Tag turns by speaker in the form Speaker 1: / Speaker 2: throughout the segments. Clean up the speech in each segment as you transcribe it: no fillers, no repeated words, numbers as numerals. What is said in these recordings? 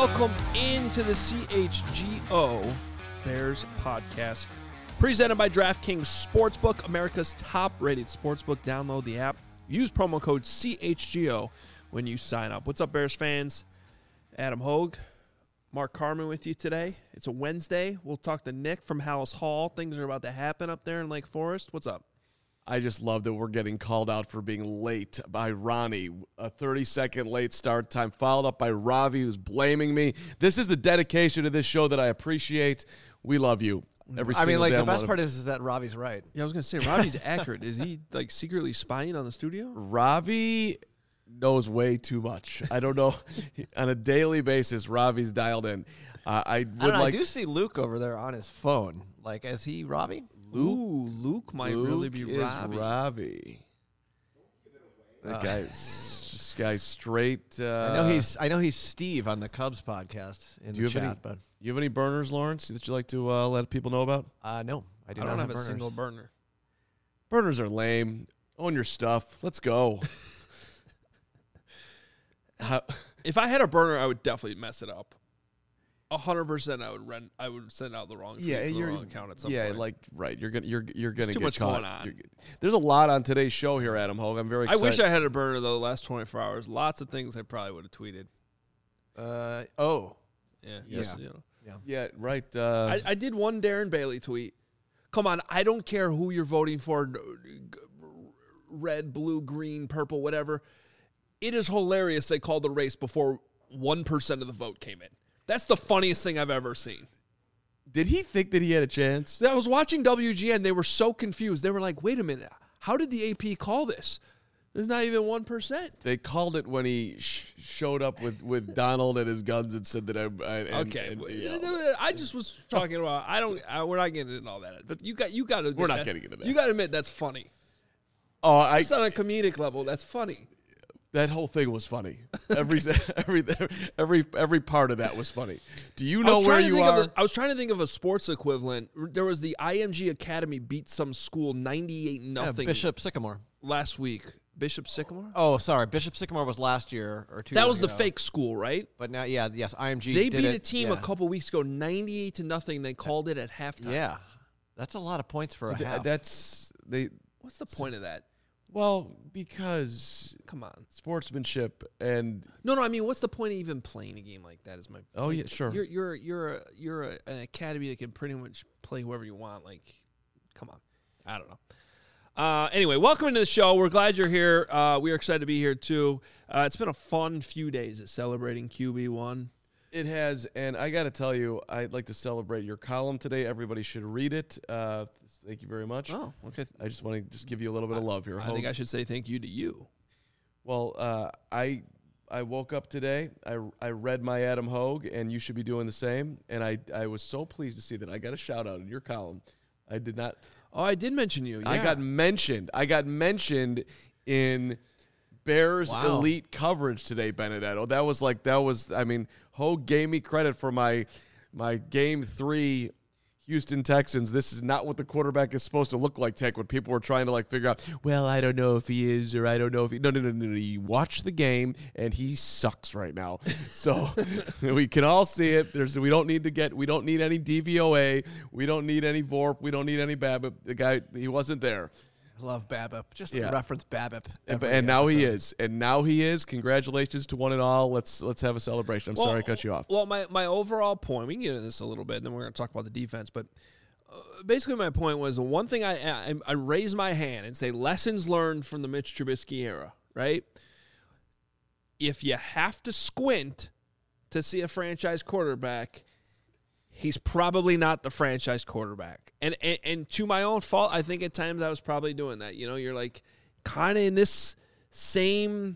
Speaker 1: welcome into the CHGO Bears podcast, presented by DraftKings Sportsbook, America's top-rated sportsbook. Download the app. Use promo code CHGO when you sign up. What's up, Bears fans? Adam Hogue, Mark Carman with you today. It's a Wednesday. We'll talk to Nick from Hallis Hall. Things are about to happen up there in Lake Forest. What's up?
Speaker 2: I just love that we're getting called out for being late by Ronnie. A 30-second late start time, followed up by Ravi, who's blaming me. This is the dedication to this show that I appreciate. We love you. Every single day.
Speaker 3: The best part is that Ravi's right.
Speaker 1: Yeah, I was going to say, Ravi's accurate. Is he, secretly spying on the studio?
Speaker 2: Ravi knows way too much. I don't know. On a daily basis, Ravi's dialed in. I
Speaker 3: do see Luke over there on his phone. Is he Ravi?
Speaker 1: Luke might really be Ravi.
Speaker 2: Ravi. That guy's straight.
Speaker 3: I know he's Steve on the Cubs podcast in the chat. But
Speaker 2: you have any burners, Lawrence, that you like to let people know about?
Speaker 3: No, I do
Speaker 1: not
Speaker 3: not
Speaker 1: have a
Speaker 3: burners.
Speaker 1: single burner.
Speaker 2: Burners are lame. Own your stuff. Let's go.
Speaker 1: If I had a burner, I would definitely mess it up. 100%, I would send out the wrong tweet for the wrong account at some point.
Speaker 2: Right. You're gonna
Speaker 1: too
Speaker 2: get
Speaker 1: much
Speaker 2: caught.
Speaker 1: going on.
Speaker 2: There's a lot on today's show here, Adam Hogue. I'm very excited.
Speaker 1: I wish I had a burner though. The last 24 hours, lots of things I probably would have tweeted.
Speaker 2: Yeah, right.
Speaker 1: I did one Darren Bailey tweet. Come on, I don't care who you're voting for, red, blue, green, purple, whatever. It is hilarious they called the race before 1% of the vote came in. That's the funniest thing I've ever seen.
Speaker 2: Did he think that he had a chance?
Speaker 1: I was watching WGN. They were so confused. They were like, wait a minute. How did the AP call this? There's not even 1%.
Speaker 2: They called it when he showed up with Donald and his guns and said that
Speaker 1: I just was talking about, we're not getting into all that. But you got to admit
Speaker 2: we're not getting into that.
Speaker 1: You got to admit that's funny. It's on a comedic level. That's funny.
Speaker 2: That whole thing was funny. Every part of that was funny. Do you know where you are?
Speaker 1: I was trying to think of a sports equivalent. There was the IMG Academy beat some school 98-0.
Speaker 3: Bishop Sycamore
Speaker 1: last week. Bishop Sycamore?
Speaker 3: Oh, sorry. Bishop Sycamore was last year or 2 years ago.
Speaker 1: That was the fake school, right?
Speaker 3: But now, IMG.
Speaker 1: They beat a team a couple weeks ago 98-0. They called it at halftime.
Speaker 3: Yeah, that's a lot of points for a half.
Speaker 1: What's the point of that?
Speaker 2: Well, because
Speaker 1: come on,
Speaker 2: sportsmanship and
Speaker 1: no. I mean, what's the point of even playing a game like that? Is my
Speaker 2: yeah, sure.
Speaker 1: You're an academy that can pretty much play whoever you want. Come on, I don't know. Anyway, welcome into the show. We're glad you're here. We are excited to be here too. It's been a fun few days at celebrating QB1.
Speaker 2: It has, and I got to tell you, I'd like to celebrate your column today. Everybody should read it. Thank you very much.
Speaker 1: Oh, okay.
Speaker 2: I just want to give you a little bit of love here.
Speaker 1: I think I should say thank you to you.
Speaker 2: Well, I woke up today. I read my Adam Hogue, and you should be doing the same. And I was so pleased to see that I got a shout out in your column. I did not.
Speaker 1: Oh, I did mention you. Yeah.
Speaker 2: I got mentioned in Bears elite coverage today, Benedetto. That was. I mean, Hogue gave me credit for my Game 3 Houston Texans. This is not what the quarterback is supposed to look like, Tech, when people were trying to figure out, well, I don't know if he is or I don't know if he... No. You watch the game, and he sucks right now. So we can all see it. We don't need any DVOA. We don't need any VORP. We don't need any BABIP. The guy, he wasn't there.
Speaker 3: I love BABIP. Just reference BABIP.
Speaker 2: And now he is. And now he is. Congratulations to one and all. Let's have a celebration. I'm sorry I cut you off.
Speaker 1: Well, my overall point, we can get into this a little bit, and then we're going to talk about the defense. But basically my point was, the one thing I raise my hand and say lessons learned from the Mitch Trubisky era, right? If you have to squint to see a franchise quarterback, he's probably not the franchise quarterback. And to my own fault, I think at times I was probably doing that. You're kind of in this same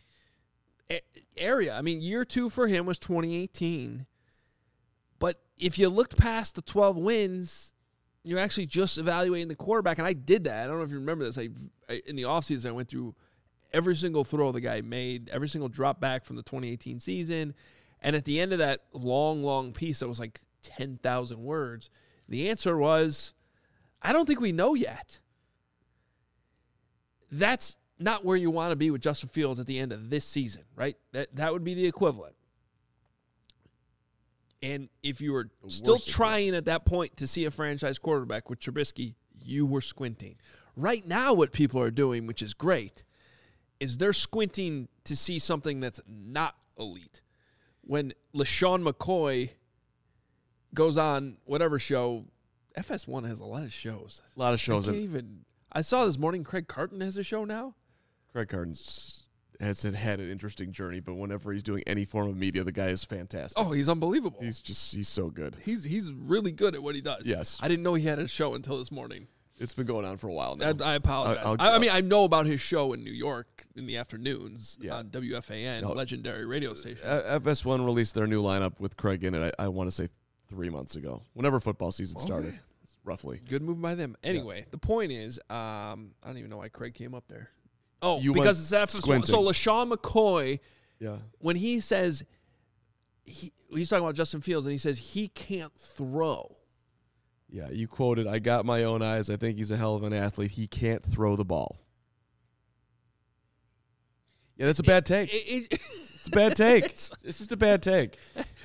Speaker 1: area. I mean, year 2 for him was 2018. But if you looked past the 12 wins, you're actually just evaluating the quarterback. And I did that. I don't know if you remember this. I in the offseason, I went through every single throw the guy made, every single drop back from the 2018 season. And at the end of that long piece that was 10,000 words, the answer was, I don't think we know yet. That's not where you want to be with Justin Fields at the end of this season, right? That would be the equivalent. And if you were still
Speaker 2: worst
Speaker 1: trying at that point to see a franchise quarterback with Trubisky, you were squinting. Right now, what people are doing, which is great, is they're squinting to see something that's not elite. When LaShawn McCoy goes on whatever show, FS1 has a lot of shows.
Speaker 2: A lot of shows.
Speaker 1: I saw this morning Craig Carton has a show now.
Speaker 2: Craig Carton has had an interesting journey, but whenever he's doing any form of media, the guy is fantastic.
Speaker 1: Oh, he's unbelievable.
Speaker 2: He's so good.
Speaker 1: He's really good at what he does.
Speaker 2: Yes.
Speaker 1: I didn't know he had a show until this morning.
Speaker 2: It's been going on for a while now.
Speaker 1: I apologize. I mean, I know about his show in New York in the afternoons on WFAN, legendary radio station.
Speaker 2: FS1 released their new lineup with Craig in it, I want to say 3 months ago, whenever football season started, roughly.
Speaker 1: Good move by them. Anyway, the point is, I don't even know why Craig came up there. Oh,
Speaker 2: You
Speaker 1: because
Speaker 2: went
Speaker 1: it's FS1.
Speaker 2: squinting.
Speaker 1: So LaShawn McCoy,
Speaker 2: Yeah.
Speaker 1: when he says, he's talking about Justin Fields, and he says he can't throw.
Speaker 2: Yeah, you quoted, I got my own eyes. I think he's a hell of an athlete. He can't throw the ball. Yeah, that's a bad take. It's a bad take. It's just a bad take.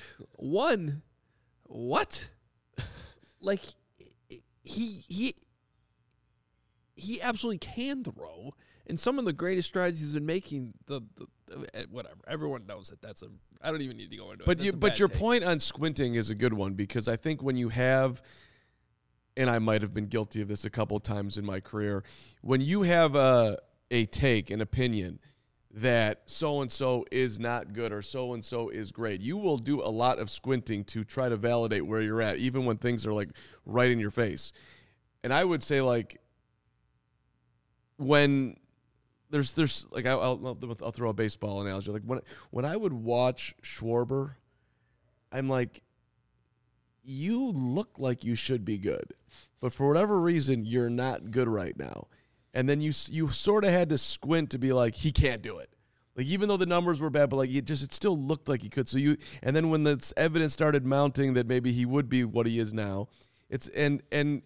Speaker 1: What? Like, he absolutely can throw, and some of the greatest strides he's been making. Whatever, everyone knows that that's a. I don't even need to go into it.
Speaker 2: But your point on squinting is a good one, because I think when you have, and I might have been guilty of this a couple of times in my career, when you have a take, an opinion that so-and-so is not good or so-and-so is great, you will do a lot of squinting to try to validate where you're at, even when things are like right in your face. And I would say, like, when there's like, I'll throw a baseball analogy. Like when I would watch Schwarber, I'm like, you look like you should be good, but for whatever reason, you're not good right now. And then you sort of had to squint to be like, he can't do it. Like, even though the numbers were bad, but like it still looked like he could. So and then when the evidence started mounting that maybe he would be what he is now, it's and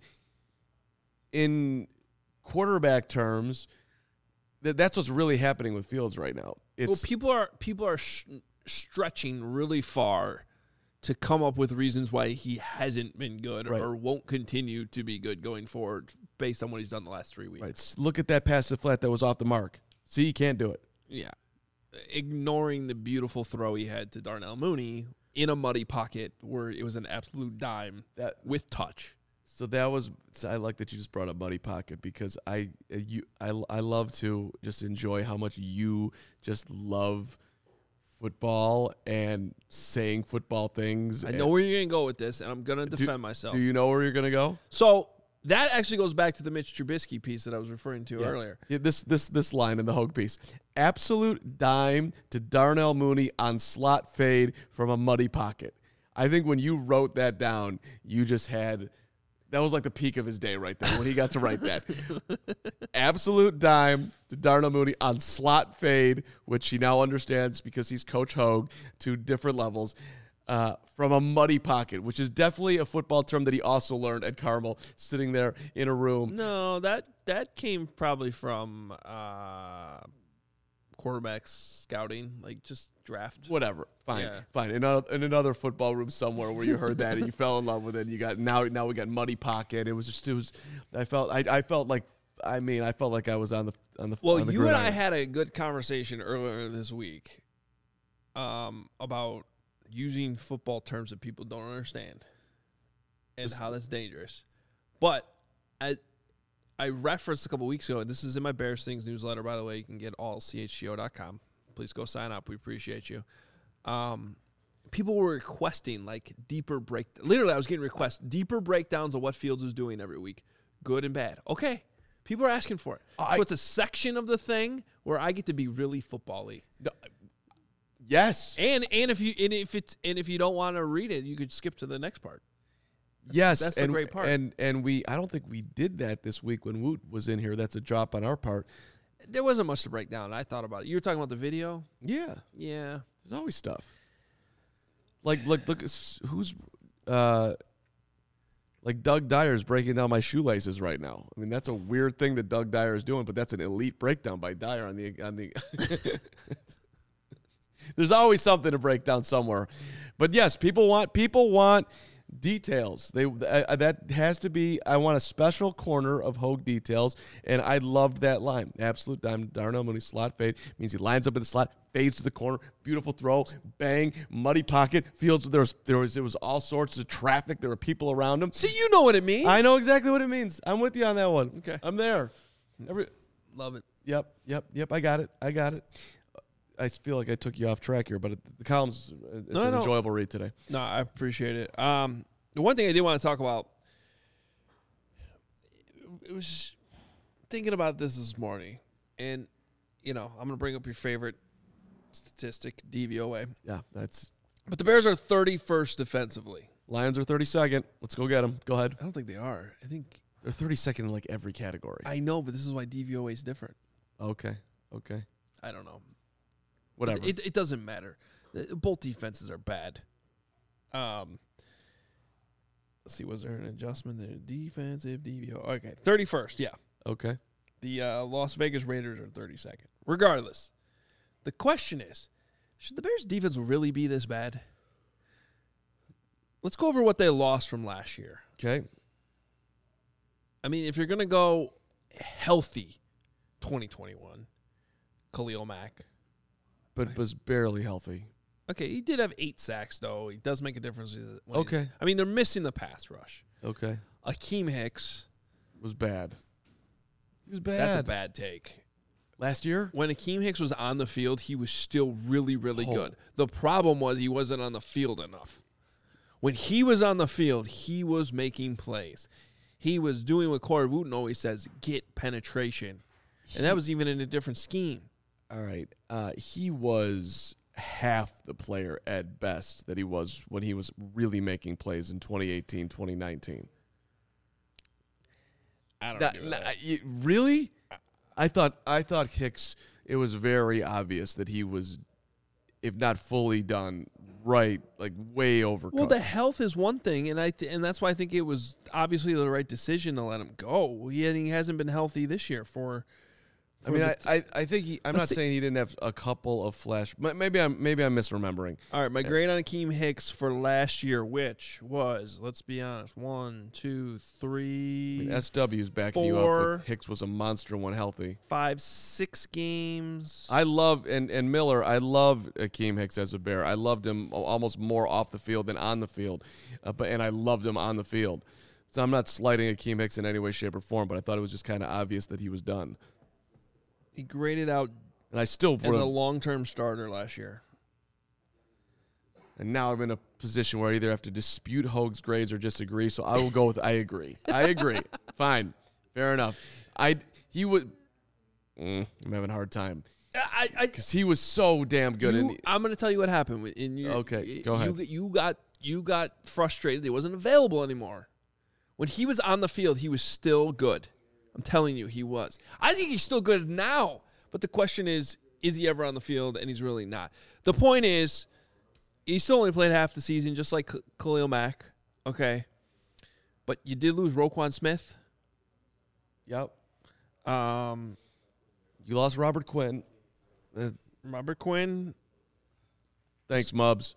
Speaker 2: in quarterback terms, that's what's really happening with Fields right now.
Speaker 1: People are stretching really far to come up with reasons why he hasn't been good or won't continue to be good going forward based on what he's done the last 3 weeks.
Speaker 2: Right. Look at that pass to flat that was off the mark. See, he can't do it.
Speaker 1: Yeah. Ignoring the beautiful throw he had to Darnell Mooney in a muddy pocket where it was an absolute dime with touch.
Speaker 2: So I like that you just brought up muddy pocket, because I love to just enjoy how much you just love football and saying football things.
Speaker 1: I know where you're going to go with this, and I'm going to defend myself.
Speaker 2: Do you know where you're going to go?
Speaker 1: So that actually goes back to the Mitch Trubisky piece that I was referring to earlier.
Speaker 2: Yeah, this line in the Hogue piece. Absolute dime to Darnell Mooney on slot fade from a muddy pocket. I think when you wrote that down, you just had... That was like the peak of his day right there when he got to write that. Absolute dime to Darnell Mooney on slot fade, which he now understands because he's Coach Hogue, to different levels, from a muddy pocket, which is definitely a football term that he also learned at Carmel, sitting there in a room.
Speaker 1: No, that came probably from quarterbacks scouting, like just draft.
Speaker 2: Whatever. Fine. In another football room somewhere where you heard that and you fell in love with it. And you got now we got muddy pocket. I felt like I was on the.
Speaker 1: Well,
Speaker 2: on the
Speaker 1: you
Speaker 2: gridiron.
Speaker 1: and I had a good conversation earlier this week about using football terms that people don't understand and how that's dangerous. But I referenced a couple weeks ago, and this is in my Bears Things newsletter, by the way. You can get all chgo.com. Please go sign up. We appreciate you. People were requesting like deeper break. Literally, I was getting requests, deeper breakdowns of what Fields is doing every week, good and bad. Okay, people are asking for it. So it's a section of the thing where I get to be really football-y.
Speaker 2: Yes.
Speaker 1: And if you don't want to read it, you could skip to the next part.
Speaker 2: Yes,
Speaker 1: that's the great part.
Speaker 2: And I don't think we did that this week when Woot was in here. That's a drop on our part.
Speaker 1: There wasn't much to break down. I thought about it. You were talking about the video?
Speaker 2: Yeah.
Speaker 1: Yeah.
Speaker 2: There's always stuff. Like look who's like Doug Dyer's breaking down my shoelaces right now. I mean, that's a weird thing that Doug Dyer is doing, but that's an elite breakdown by Dyer on the There's always something to break down somewhere. But yes, people want details. That has to be. I want a special corner of Hogue details, and I loved that line. Absolute diamond. Darnell Mooney slot fade means he lines up in the slot, fades to the corner, beautiful throw, bang, muddy pocket. Feels there was all sorts of traffic. There were people around him.
Speaker 1: See, you know what it means.
Speaker 2: I know exactly what it means. I'm with you on that one.
Speaker 1: Okay,
Speaker 2: I'm there.
Speaker 1: Love it.
Speaker 2: Yep. I got it. I feel like I took you off track here, but the column's an enjoyable read today.
Speaker 1: No, I appreciate it. The one thing I did want to talk about, it was thinking about this morning, and I'm going to bring up your favorite statistic, DVOA.
Speaker 2: Yeah,
Speaker 1: But the Bears are 31st defensively.
Speaker 2: Lions are 32nd. Let's go get them. Go ahead.
Speaker 1: I don't think they are. I think
Speaker 2: they're 32nd in like every category.
Speaker 1: I know, but this is why DVOA is different.
Speaker 2: Okay.
Speaker 1: I don't know.
Speaker 2: Whatever.
Speaker 1: It doesn't matter. Both defenses are bad. Let's see, was there an adjustment there? Defensive DVO. Okay, 31st, yeah.
Speaker 2: Okay.
Speaker 1: The Las Vegas Raiders are 32nd. Regardless, the question is, should the Bears' defense really be this bad? Let's go over what they lost from last year.
Speaker 2: Okay.
Speaker 1: I mean, if you're going to go healthy 2021, Khalil Mack.
Speaker 2: But was barely healthy.
Speaker 1: Okay, he did have 8 sacks, though. He does make a difference.
Speaker 2: Okay.
Speaker 1: I mean, they're missing the pass rush.
Speaker 2: Okay.
Speaker 1: Akeem Hicks.
Speaker 2: Was bad. He was bad.
Speaker 1: That's a bad take.
Speaker 2: Last year?
Speaker 1: When Akeem Hicks was on the field, he was still really, really good. The problem was he wasn't on the field enough. When he was on the field, he was making plays. He was doing what Corey Wooten always says, get penetration. And that was even in a different scheme.
Speaker 2: All right. He was half the player at best that he was when he was really making plays in 2018, 2019.
Speaker 1: I don't know.
Speaker 2: Really? I thought Hicks, it was very obvious that he was, if not fully done, right, like way overcooked.
Speaker 1: Well, the health is one thing, and that's why I think it was obviously the right decision to let him go. He hasn't been healthy this year
Speaker 2: I mean, I think I'm not saying he didn't have a couple of flash. Maybe I'm misremembering.
Speaker 1: All right, my grade on Akeem Hicks for last year, which was, let's be honest, 1, 2, 3.
Speaker 2: I mean, SW's backing you up. Hicks was a monster when healthy.
Speaker 1: 5, 6 games.
Speaker 2: I love and Miller. I love Akeem Hicks as a Bear. I loved him almost more off the field than on the field, and I loved him on the field. So I'm not slighting Akeem Hicks in any way, shape, or form, but I thought it was just kind of obvious that he was done.
Speaker 1: He graded out
Speaker 2: and I still
Speaker 1: as a long-term starter last year.
Speaker 2: And now I'm in a position where I either have to dispute Hogue's grades or disagree, so I will go with I agree. I agree. Fine. Fair enough. I'm having a hard time. Because he was so damn good.
Speaker 1: I'm going to tell you what happened.
Speaker 2: Okay, go ahead.
Speaker 1: You got frustrated. He wasn't available anymore. When he was on the field, he was still good. I'm telling you, he was. I think he's still good now. But the question is he ever on the field? And he's really not. The point is, he still only played half the season, just like Khalil Mack. Okay. But you did lose Roquan Smith.
Speaker 2: Yep. You lost Robert Quinn.
Speaker 1: Robert Quinn.
Speaker 2: Thanks, Mubs.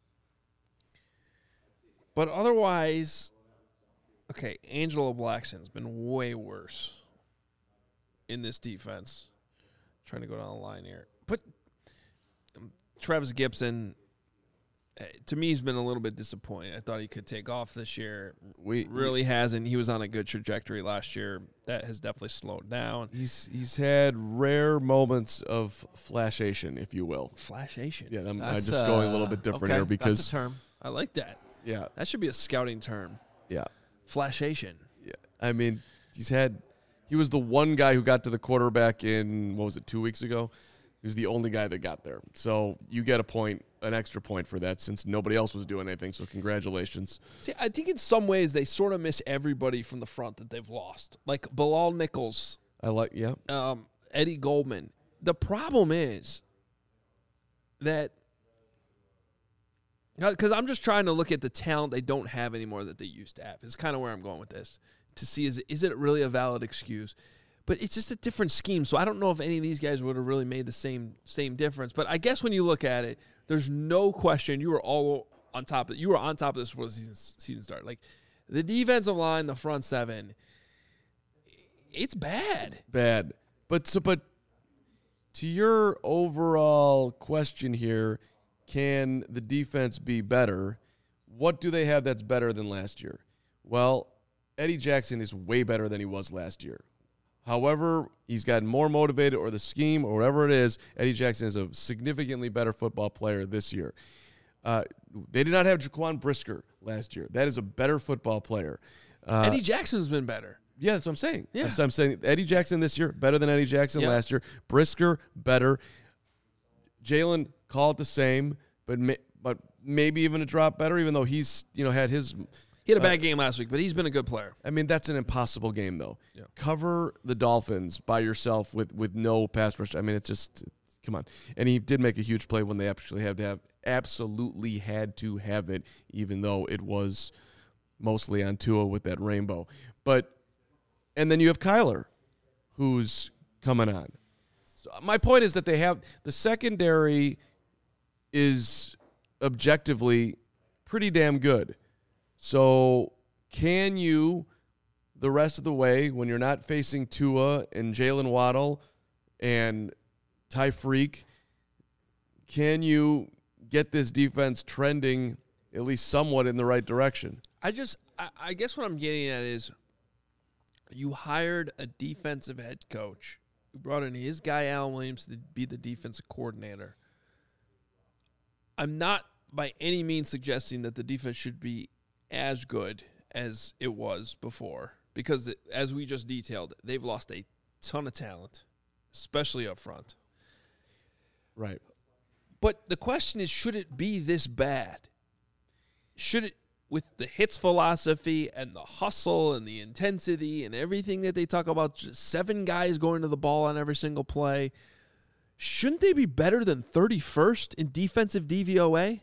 Speaker 1: But otherwise, okay, Angelo Blackson's been way worse in this defense. Trying to go down the line here. But Travis Gibson, to me, he's been a little bit disappointing. I thought he could take off this year. Really hasn't. He was on a good trajectory last year. That has definitely slowed down.
Speaker 2: He's had rare moments of flashation, if you will.
Speaker 1: Flashation?
Speaker 2: Yeah, I'm just going a little bit different here because
Speaker 3: that's a term.
Speaker 1: I like that.
Speaker 2: Yeah.
Speaker 1: That should be a scouting term.
Speaker 2: Yeah.
Speaker 1: Flashation.
Speaker 2: Yeah. I mean, he was the one guy who got to the quarterback in, 2 weeks ago? He was the only guy that got there. So you get an extra point for that since nobody else was doing anything. So congratulations.
Speaker 1: See, I think in some ways they sort of miss everybody from the front that they've lost. Like Bilal Nichols. Eddie Goldman. The problem is that, because I'm just trying to look at the talent they don't have anymore that they used to have. Is kind of where I'm going with this. To see, is it really a valid excuse? But it's just a different scheme. So I don't know if any of these guys would have really made the same difference. But I guess when you look at it, there's no question you were all on top of it. You were on top of this before the season started. Like the defensive line, the front seven, it's bad.
Speaker 2: Bad. But to your overall question here, can the defense be better? What do they have that's better than last year? Well, Eddie Jackson is way better than he was last year. However, he's gotten more motivated, or the scheme, or whatever it is, Eddie Jackson is a significantly better football player this year. They did not have Jaquan Brisker last year. That is a better football player.
Speaker 1: Eddie Jackson's been better.
Speaker 2: Yeah, that's what I'm saying.
Speaker 1: Yeah.
Speaker 2: That's what I'm saying. Eddie Jackson this year, better than Eddie Jackson last year. Brisker, better. Jalen, call it the same, but maybe even a drop better, even though he's had his...
Speaker 1: He had a bad game last week, but he's been a good player.
Speaker 2: I mean, that's an impossible game, though.
Speaker 1: Yeah.
Speaker 2: Cover the Dolphins by yourself with no pass rush. I mean, it's just, come on. And he did make a huge play when they actually absolutely had to have it, even though it was mostly on Tua with that rainbow. And then you have Kyler, who's coming on. So my point is that they have, the secondary is objectively pretty damn good. So can you, the rest of the way, when you're not facing Tua and Jalen Waddle and Ty Freak, can you get this defense trending at least somewhat in the right direction?
Speaker 1: I guess what I'm getting at is you hired a defensive head coach. You brought in his guy, Alan Williams, to be the defensive coordinator. I'm not by any means suggesting that the defense should be as good as it was before, because as we just detailed, they've lost a ton of talent, especially up front.
Speaker 2: Right.
Speaker 1: But the question is, should it be this bad? Should it, with the hits philosophy and the hustle and the intensity and everything that they talk about, just 7 guys going to the ball on every single play, shouldn't they be better than 31st in defensive DVOA?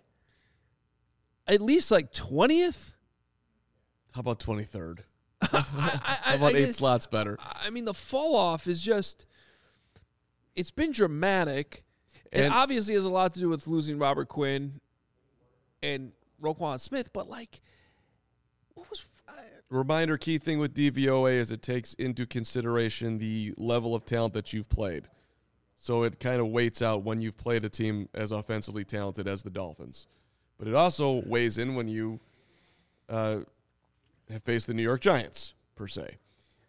Speaker 1: At least like 20th?
Speaker 2: How about 23rd?
Speaker 1: How
Speaker 2: about 8 slots better?
Speaker 1: I mean, the fall off is just, it's been dramatic. And obviously has a lot to do with losing Robert Quinn and Roquan Smith. But, like, what was...
Speaker 2: Reminder, key thing with DVOA is it takes into consideration the level of talent that you've played. So it kind of weights out when you've played a team as offensively talented as the Dolphins. But it also weighs in when you have faced the New York Giants, per se.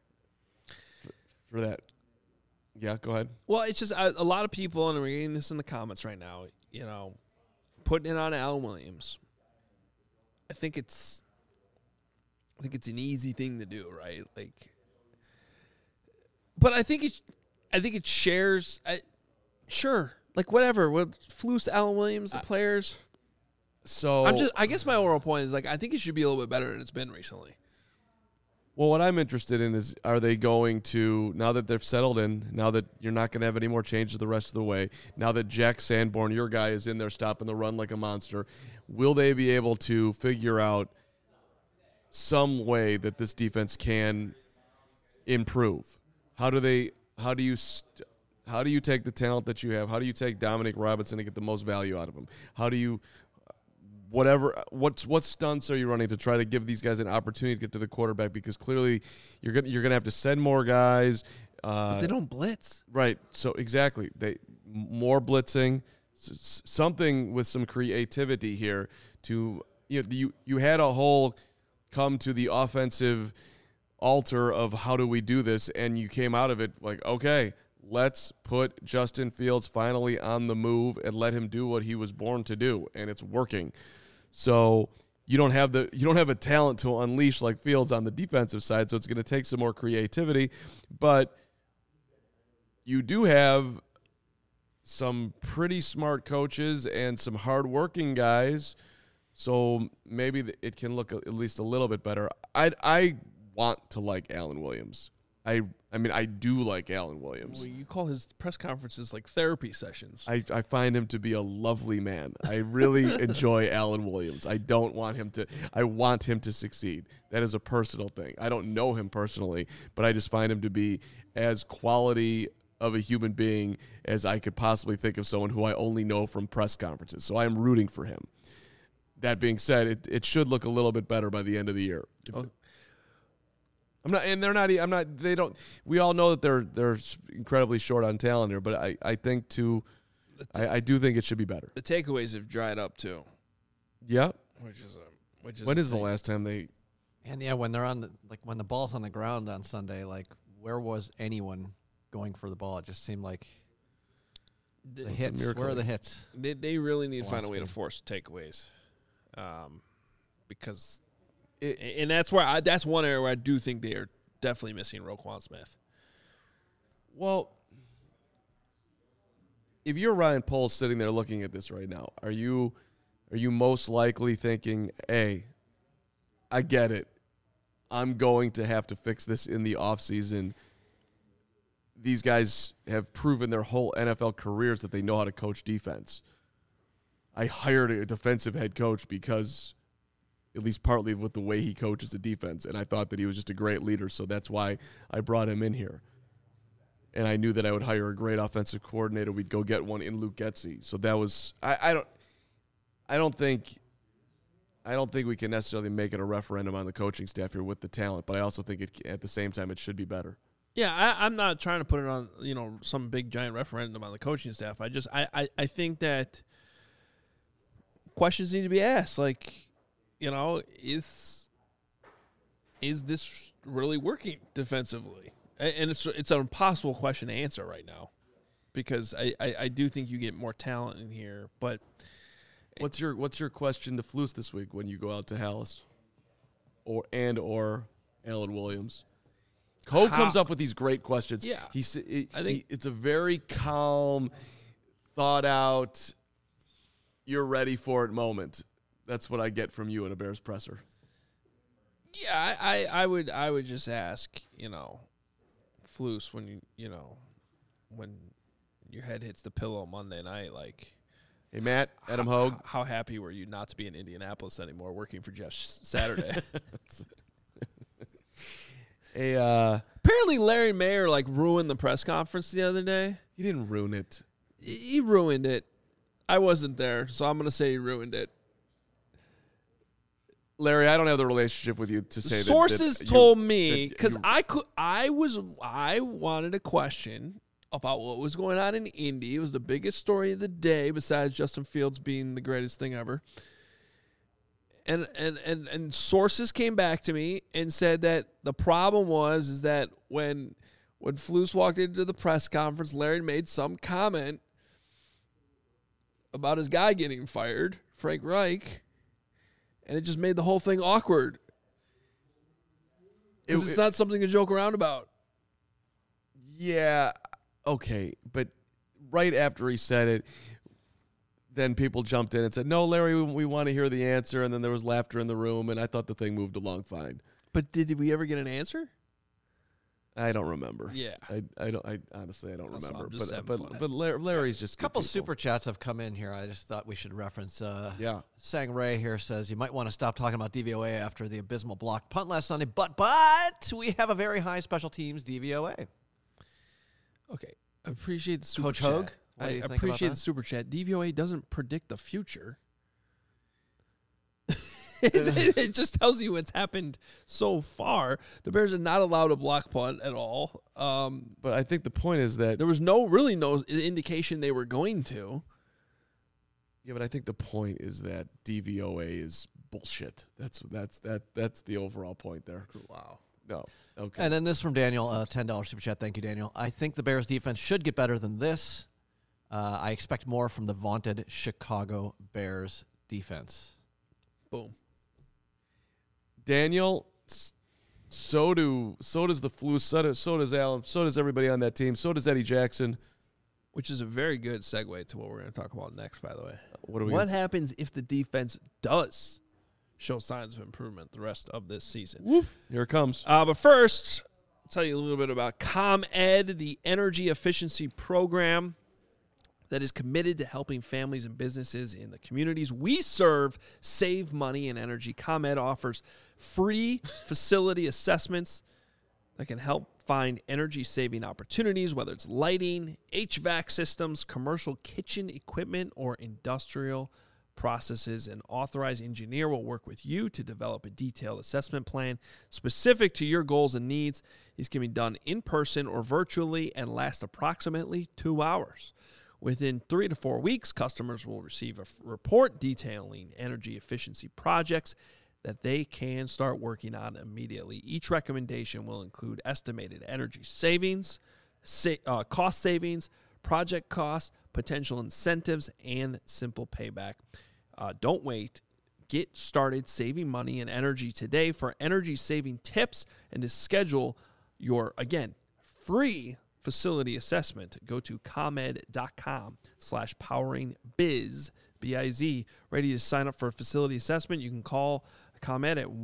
Speaker 2: For that. Yeah, go ahead.
Speaker 1: Well, it's just a lot of people, and we're getting this in the comments right now, putting it on Alan Williams. I think it's an easy thing to do, right? Like, but I think it shares. Sure, like whatever. Flus, Alan Williams, the players.
Speaker 2: So
Speaker 1: I guess my overall point is, like, I think it should be a little bit better than it's been recently.
Speaker 2: Well, what I'm interested in is, are they going to, now that they've settled in, now that you're not going to have any more changes the rest of the way, now that Jack Sanborn, your guy, is in there stopping the run like a monster, will they be able to figure out some way that this defense can improve? How do you take the talent that you have? How do you take Dominic Robinson and get the most value out of him? How do you, what stunts are you running to try to give these guys an opportunity to get to the quarterback? Because clearly you're gonna have to send more guys.
Speaker 1: But they don't blitz.
Speaker 2: Right. So exactly, more blitzing, something with some creativity here. To you had a whole come to the offensive altar of how do we do this, and you came out of it like, okay, let's put Justin Fields finally on the move and let him do what he was born to do, and it's working. So you don't have a talent to unleash like Fields on the defensive side, so it's going to take some more creativity, but you do have some pretty smart coaches and some hardworking guys, so maybe it can look at least a little bit better. I want to like Alan Williams. I mean, I do like Alan Williams.
Speaker 1: Well, you call his press conferences like therapy sessions.
Speaker 2: I find him to be a lovely man. I really enjoy Alan Williams. I want him to succeed. That is a personal thing. I don't know him personally, but I just find him to be as quality of a human being as I could possibly think of someone who I only know from press conferences. So I'm rooting for him. That being said, it should look a little bit better by the end of the year. We all know that they're incredibly short on talent here, but I think I do think it should be better.
Speaker 1: The takeaways have dried up too.
Speaker 2: Yeah.
Speaker 1: Which is
Speaker 2: when is the last time they?
Speaker 3: And yeah, when they're when the ball's on the ground on Sunday, where was anyone going for the ball? It just seemed like the hits. Where are the hits?
Speaker 1: They really need to find a way to force takeaways, because. And that's that's one area where I do think they are definitely missing Roquan Smith.
Speaker 2: Well, if you're Ryan Poles sitting there looking at this right now, are you most likely thinking, hey, I get it. I'm going to have to fix this in the offseason. These guys have proven their whole NFL careers that they know how to coach defense. I hired a defensive head coach because at least partly with the way he coaches the defense, and I thought that he was just a great leader, so that's why I brought him in here. And I knew that I would hire a great offensive coordinator. We'd go get one in Luke Getsy. So that was I don't think we can necessarily make it a referendum on the coaching staff here with the talent, but I also think at the same time it should be better.
Speaker 1: Yeah, I'm not trying to put it on some big giant referendum on the coaching staff. I think that questions need to be asked, like, is this really working defensively? And it's an impossible question to answer right now, because I do think you get more talent in here. But
Speaker 2: what's your question to Flus this week when you go out to Halas, or Alan Williams? Cole comes up with these great questions.
Speaker 1: Yeah,
Speaker 2: I think it's a very calm, thought out, you're ready for it moment. That's what I get from you in a Bears presser.
Speaker 1: Yeah, I would just ask, Flus, when when your head hits the pillow Monday night, like,
Speaker 2: hey Matt, Adam Hogue,
Speaker 1: how happy were you not to be in Indianapolis anymore, working for Jeff Saturday? Apparently Larry Mayer ruined the press conference the other day.
Speaker 2: He didn't ruin it.
Speaker 1: He ruined it. I wasn't there, so I'm gonna say he ruined it.
Speaker 2: Larry, I don't have the relationship with you to say
Speaker 1: sources told me, because I wanted a question about what was going on in Indy. It was the biggest story of the day, besides Justin Fields being the greatest thing ever. And sources came back to me and said that the problem is that when Flus walked into the press conference, Larry made some comment about his guy getting fired, Frank Reich. And it just made the whole thing awkward. It's not something to joke around about.
Speaker 2: Yeah, okay. But right after he said it, then people jumped in and said, no, Larry, we want to hear the answer. And then there was laughter in the room, and I thought the thing moved along fine.
Speaker 1: But did we ever get an answer?
Speaker 2: I don't remember.
Speaker 1: Yeah,
Speaker 2: I honestly don't remember. But
Speaker 3: Larry's just a couple super chats have come in here. I just thought we should reference. Sang Ray here says you might want to stop talking about DVOA after the abysmal blocked punt last Sunday, but we have a very high special teams DVOA.
Speaker 1: Okay, I appreciate the super
Speaker 3: Coach
Speaker 1: chat.
Speaker 3: Hogue.
Speaker 1: I appreciate the super chat. DVOA doesn't predict the future. It just tells you what's happened so far. The Bears are not allowed a block punt at all.
Speaker 2: But I think the point is that
Speaker 1: there was no indication they were going to.
Speaker 2: Yeah, but I think the point is that DVOA is bullshit. That's the overall point there.
Speaker 1: Wow.
Speaker 2: No. Okay.
Speaker 3: And then this from Daniel, $10 super chat. Thank you, Daniel. I think the Bears defense should get better than this. I expect more from the vaunted Chicago Bears defense.
Speaker 1: Boom.
Speaker 2: Daniel, so does the Flus, so does Allen, so does everybody on that team, so does Eddie Jackson.
Speaker 1: Which is a very good segue to what we're going to talk about next, by the way.
Speaker 2: What
Speaker 1: happens if the defense does show signs of improvement the rest of this season?
Speaker 2: Woof. Here it comes.
Speaker 1: But first, tell you a little bit about ComEd, the energy efficiency program that is committed to helping families and businesses in the communities we serve save money and energy. ComEd offers free facility assessments that can help find energy-saving opportunities, whether it's lighting, HVAC systems, commercial kitchen equipment, or industrial processes. An authorized engineer will work with you to develop a detailed assessment plan specific to your goals and needs. These can be done in person or virtually and last approximately 2 hours. Within 3 to 4 weeks, customers will receive a report detailing energy efficiency projects that they can start working on immediately. Each recommendation will include estimated energy savings, cost savings, project costs, potential incentives, and simple payback. Don't wait. Get started saving money and energy today. For energy-saving tips and to schedule your, again, free facility assessment, go to ComEd.com/poweringbiz, B-I-Z. Ready to sign up for a facility assessment? You can call ComEd at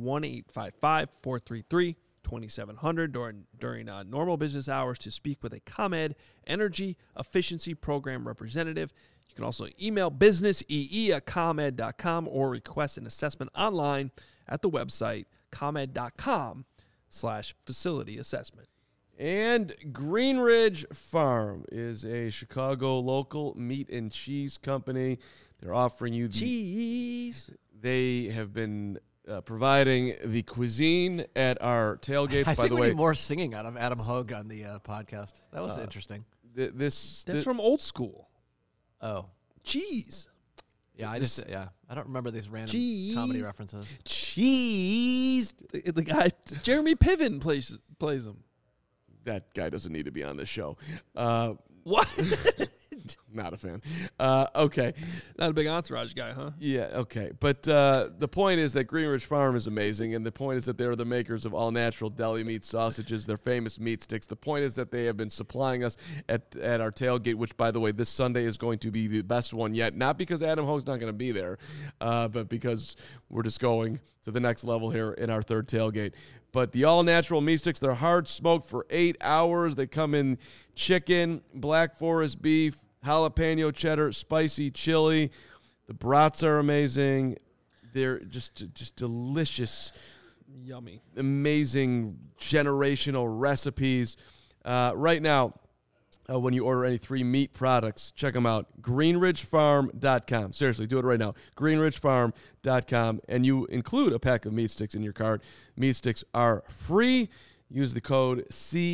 Speaker 1: 1-855-433-2700 during normal business hours to speak with a ComEd Energy Efficiency Program representative. You can also email businessee@comed.com or request an assessment online at the website comed.com/facility assessment.
Speaker 2: And Greenridge Farm is a Chicago local meat and cheese company. They're offering you the
Speaker 1: cheese.
Speaker 2: They have been providing the cuisine at our tailgates. By the way,
Speaker 3: we need more singing out of Adam Hogue on the podcast. That was interesting.
Speaker 1: That's from Old School.
Speaker 3: Oh,
Speaker 1: cheese.
Speaker 3: Yeah, I don't remember these random comedy references.
Speaker 2: Cheese.
Speaker 1: The guy Jeremy Piven plays him.
Speaker 2: That guy doesn't need to be on this show.
Speaker 1: What?
Speaker 2: Not a fan. Okay.
Speaker 1: Not a big Entourage guy, huh?
Speaker 2: Yeah, okay. But the point is that Greenridge Farm is amazing, and the point is that they're the makers of all-natural deli meat sausages, their famous meat sticks. The point is that they have been supplying us at our tailgate, which, by the way, this Sunday is going to be the best one yet. Not because Adam Hogue's not going to be there, but because we're just going to the next level here in our third tailgate. But the all-natural meat sticks, they're hard smoked for 8 hours. They come in chicken, Black Forest beef, jalapeno cheddar, spicy chili. The brats are amazing. They're just delicious.
Speaker 1: Yummy.
Speaker 2: Amazing generational recipes. Right now, when you order any 3 meat products, check them out. GreenridgeFarm.com. Seriously, do it right now. GreenridgeFarm.com. And you include a pack of meat sticks in your cart. Meat sticks are free. Use the code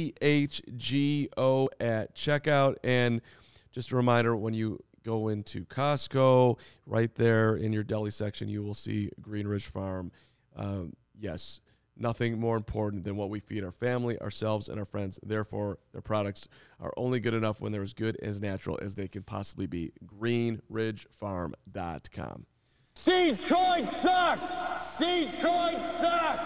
Speaker 2: CHGO at checkout. And just a reminder, when you go into Costco, right there in your deli section, you will see Greenridge Farm. Yes, nothing more important than what we feed our family, ourselves, and our friends. Therefore, their products are only good enough when they're as good and as natural as they can possibly be. GreenridgeFarm.com.
Speaker 4: Detroit sucks! Detroit sucks!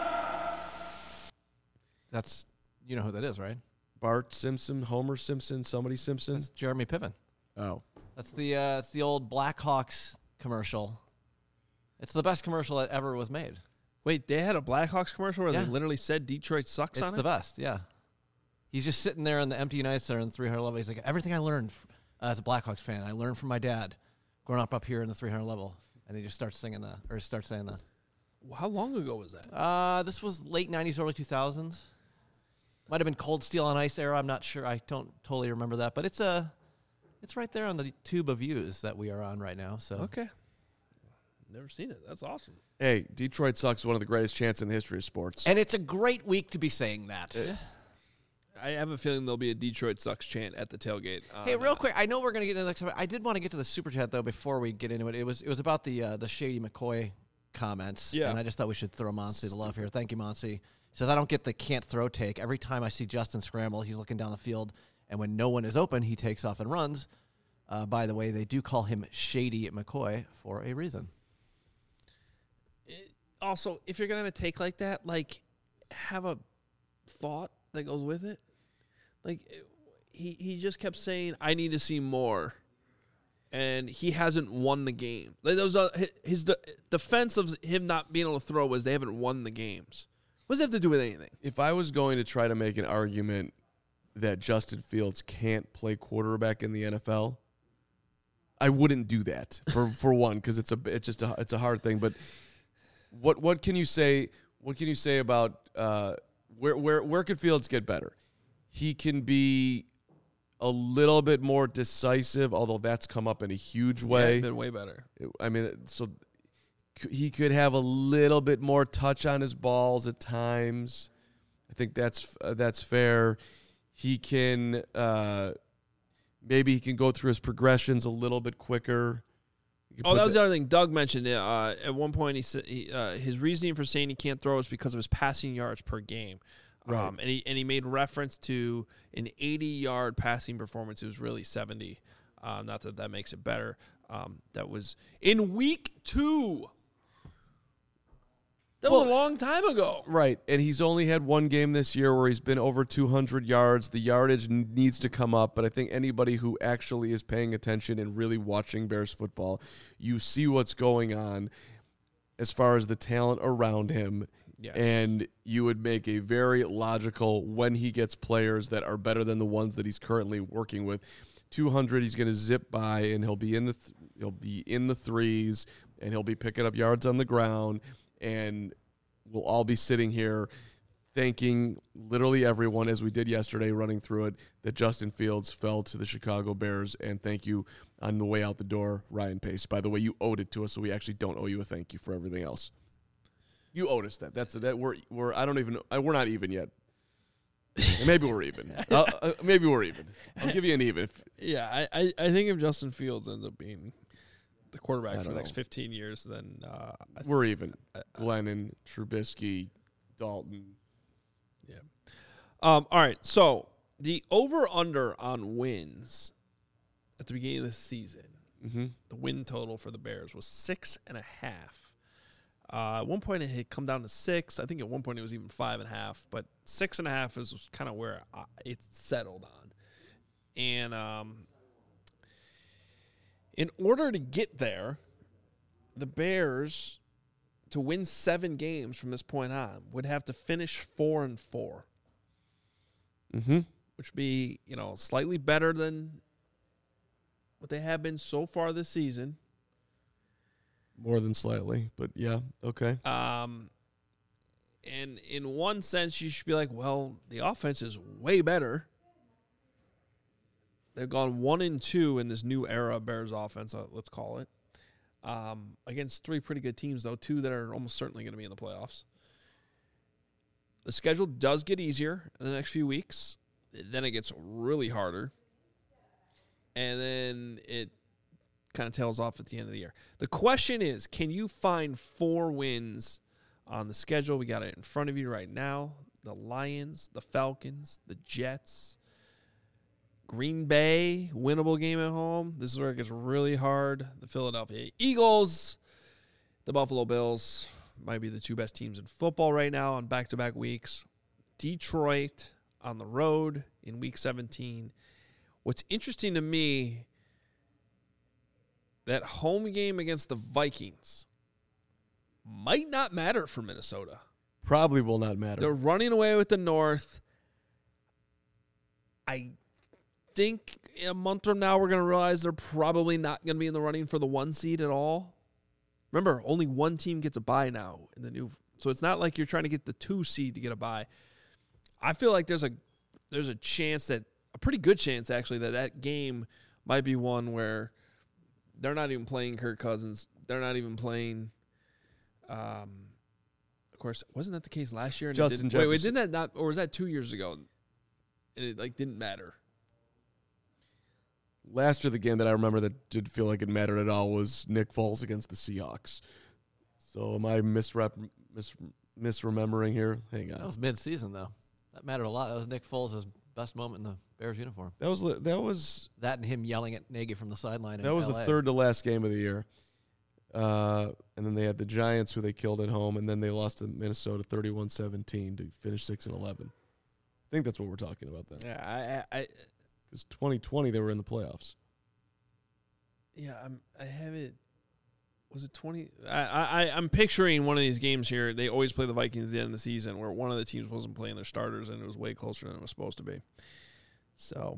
Speaker 3: That's, you know who that is, right?
Speaker 2: Bart Simpson, Homer Simpson, somebody Simpson.
Speaker 3: That's Jeremy Piven.
Speaker 2: Oh,
Speaker 3: that's the old Blackhawks commercial. It's the best commercial that ever was made.
Speaker 1: Wait, they had a Blackhawks commercial where they literally said Detroit sucks on it?
Speaker 3: It's the best, yeah. He's just sitting there in the empty United Center in the 300 level. He's like, everything I learned as a Blackhawks fan, I learned from my dad growing up here in the 300 level. And he just starts singing that, or starts saying that.
Speaker 1: How long ago was that?
Speaker 3: This was late 90s, early 2000s. Might have been Cold Steel on Ice era. I'm not sure. I don't totally remember that. But it's right there on the tube of views that we are on right now. So
Speaker 1: okay. Never seen it. That's awesome.
Speaker 2: Hey, Detroit sucks. One of the greatest chants in the history of sports.
Speaker 3: And it's a great week to be saying that.
Speaker 1: I have a feeling there'll be a Detroit sucks chant at the tailgate.
Speaker 3: Hey, real quick, I know we're going to get into the next one. I did want to get to the super chat though before we get into it. It was about the Shady McCoy comments.
Speaker 1: Yeah.
Speaker 3: And I just thought we should throw Monsi the love here. Thank you, Monsi. He says, I don't get the can't throw take. Every time I see Justin scramble, he's looking down the field, and when no one is open, he takes off and runs. By the way, they do call him Shady McCoy for a reason.
Speaker 1: Also, if you're going to have a take like that, like, have a thought that goes with it. Like, he just kept saying, I need to see more. And he hasn't won the game. Like, his defense of him not being able to throw was they haven't won the games. What does it have to do with anything?
Speaker 2: If I was going to try to make an argument that Justin Fields can't play quarterback in the NFL, I wouldn't do that for one, because it's a hard thing. But what can you say? What can you say about where could Fields get better? He can be a little bit more decisive, although that's come up in a huge way.
Speaker 1: Yeah, been way better.
Speaker 2: I mean, so he could have a little bit more touch on his balls at times. I think that's fair. He can maybe he can go through his progressions a little bit quicker.
Speaker 1: Oh, that was the other thing Doug mentioned. At one point, he said his reasoning for saying he can't throw is because of his passing yards per game.
Speaker 2: Right.
Speaker 1: And he made reference to an 80-yard passing performance. It was really 70. Not that makes it better. That was in week 2. That was a long time ago.
Speaker 2: Right, and he's only had one game this year where he's been over 200 yards. The yardage needs to come up, but I think anybody who actually is paying attention and really watching Bears football, you see what's going on as far as the talent around him.
Speaker 1: Yes.
Speaker 2: And you would make a very logical, when he gets players that are better than the ones that he's currently working with, 200, he's going to zip by, and he'll be in the threes, and he'll be picking up yards on the ground. And we'll all be sitting here thanking literally everyone, as we did yesterday, running through it, that Justin Fields fell to the Chicago Bears. And thank you on the way out the door, Ryan Pace. By the way, you owed it to us, so we actually don't owe you a thank you for everything else. You owed us that. We're not even yet. Maybe we're even. Maybe we're even. I'll give you an even.
Speaker 1: Yeah, I think if Justin Fields ends up being the quarterback for the next 15 years, then
Speaker 2: we're even. Glennon, Trubisky, Dalton.
Speaker 1: Yeah. All right. So the over/under on wins at the beginning of the season, the win total for the Bears was 6.5. At one point it had come down to 6. I think at one point it was even 5.5, but 6.5 is kind of where it's settled on. And in order to get there, the Bears, to win 7 games from this point on, would have to finish 4-4.
Speaker 2: Mm-hmm.
Speaker 1: Which would be, slightly better than what they have been so far this season.
Speaker 2: More than slightly, but yeah, okay.
Speaker 1: And in one sense, you should be like, well, the offense is way better. They've gone 1-2 in this new era of Bears offense, let's call it. Against 3 pretty good teams, though, 2 that are almost certainly going to be in the playoffs. The schedule does get easier in the next few weeks. Then it gets really harder. And then it kind of tails off at the end of the year. The question is, can you find 4 wins on the schedule? We got it in front of you right now. The Lions, the Falcons, the Jets, Green Bay, winnable game at home. This is where it gets really hard. The Philadelphia Eagles, the Buffalo Bills might be the 2 best teams in football right now on back-to-back weeks. Detroit on the road in Week 17. What's interesting to me, that home game against the Vikings might not matter for Minnesota.
Speaker 2: Probably will not matter.
Speaker 1: They're running away with the North. I think in a month from now we're going to realize they're probably not going to be in the running for the 1 seed at all. Remember, only 1 team gets a bye now in the new. So it's not like you're trying to get the 2 seed to get a bye. I feel like there's a chance that, a pretty good chance actually, that game might be one where they're not even playing Kirk Cousins. They're not even playing. Of course, wasn't that the case last year? And
Speaker 2: Justin Jefferson.
Speaker 1: Wait, didn't that not, or was that 2 years ago? And it didn't matter.
Speaker 2: Last year, the game that I remember that did feel like it mattered at all was Nick Foles against the Seahawks. So am I misremembering here? Hang on.
Speaker 3: That was mid-season, though. That mattered a lot. That was Nick Foles' best moment in the Bears uniform.
Speaker 2: That was
Speaker 3: that and him yelling at Nagy from the sideline.
Speaker 2: That was
Speaker 3: LA.
Speaker 2: the third to last game of the year. And then they had the Giants, who they killed at home, and then they lost to Minnesota 31-17 to finish 6-11. I think that's what we're talking about then.
Speaker 1: Yeah,
Speaker 2: Because 2020 they were in the playoffs.
Speaker 1: Yeah, I have it. Was it 20? I'm picturing one of these games here. They always play the Vikings at the end of the season where one of the teams wasn't playing their starters and it was way closer than it was supposed to be. So,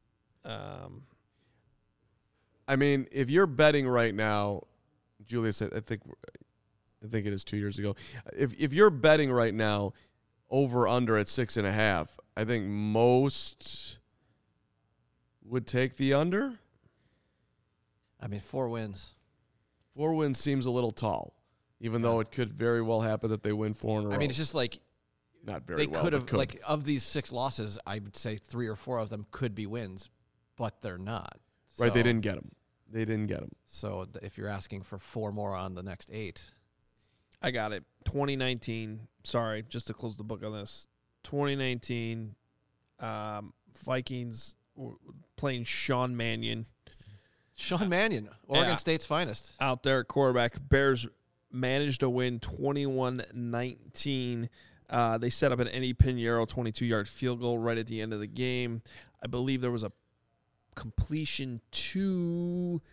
Speaker 2: I mean, if you're betting right now, Julius, I think it is 2 years ago. If you're betting right now over under at 6.5, I think most would take the under.
Speaker 3: I mean, 4 wins.
Speaker 2: 4 wins seems a little tall, even though it could very well happen that they win 4 in a row.
Speaker 3: I mean, it's just like
Speaker 2: not very well.
Speaker 3: They could have, like, of these 6 losses, I would say 3 or 4 of them could be wins, but they're not.
Speaker 2: Right, so, they didn't get them.
Speaker 3: So if you're asking for 4 more on the next 8.
Speaker 1: I got it. 2019. Sorry, just to close the book on this. 2019, Vikings playing Sean Mannion.
Speaker 3: Sean Mannion, Oregon State's finest.
Speaker 1: Out there at quarterback. Bears managed to win 21-19. They set up an Eddie Pinheiro 22-yard field goal right at the end of the game. I believe there was a completion to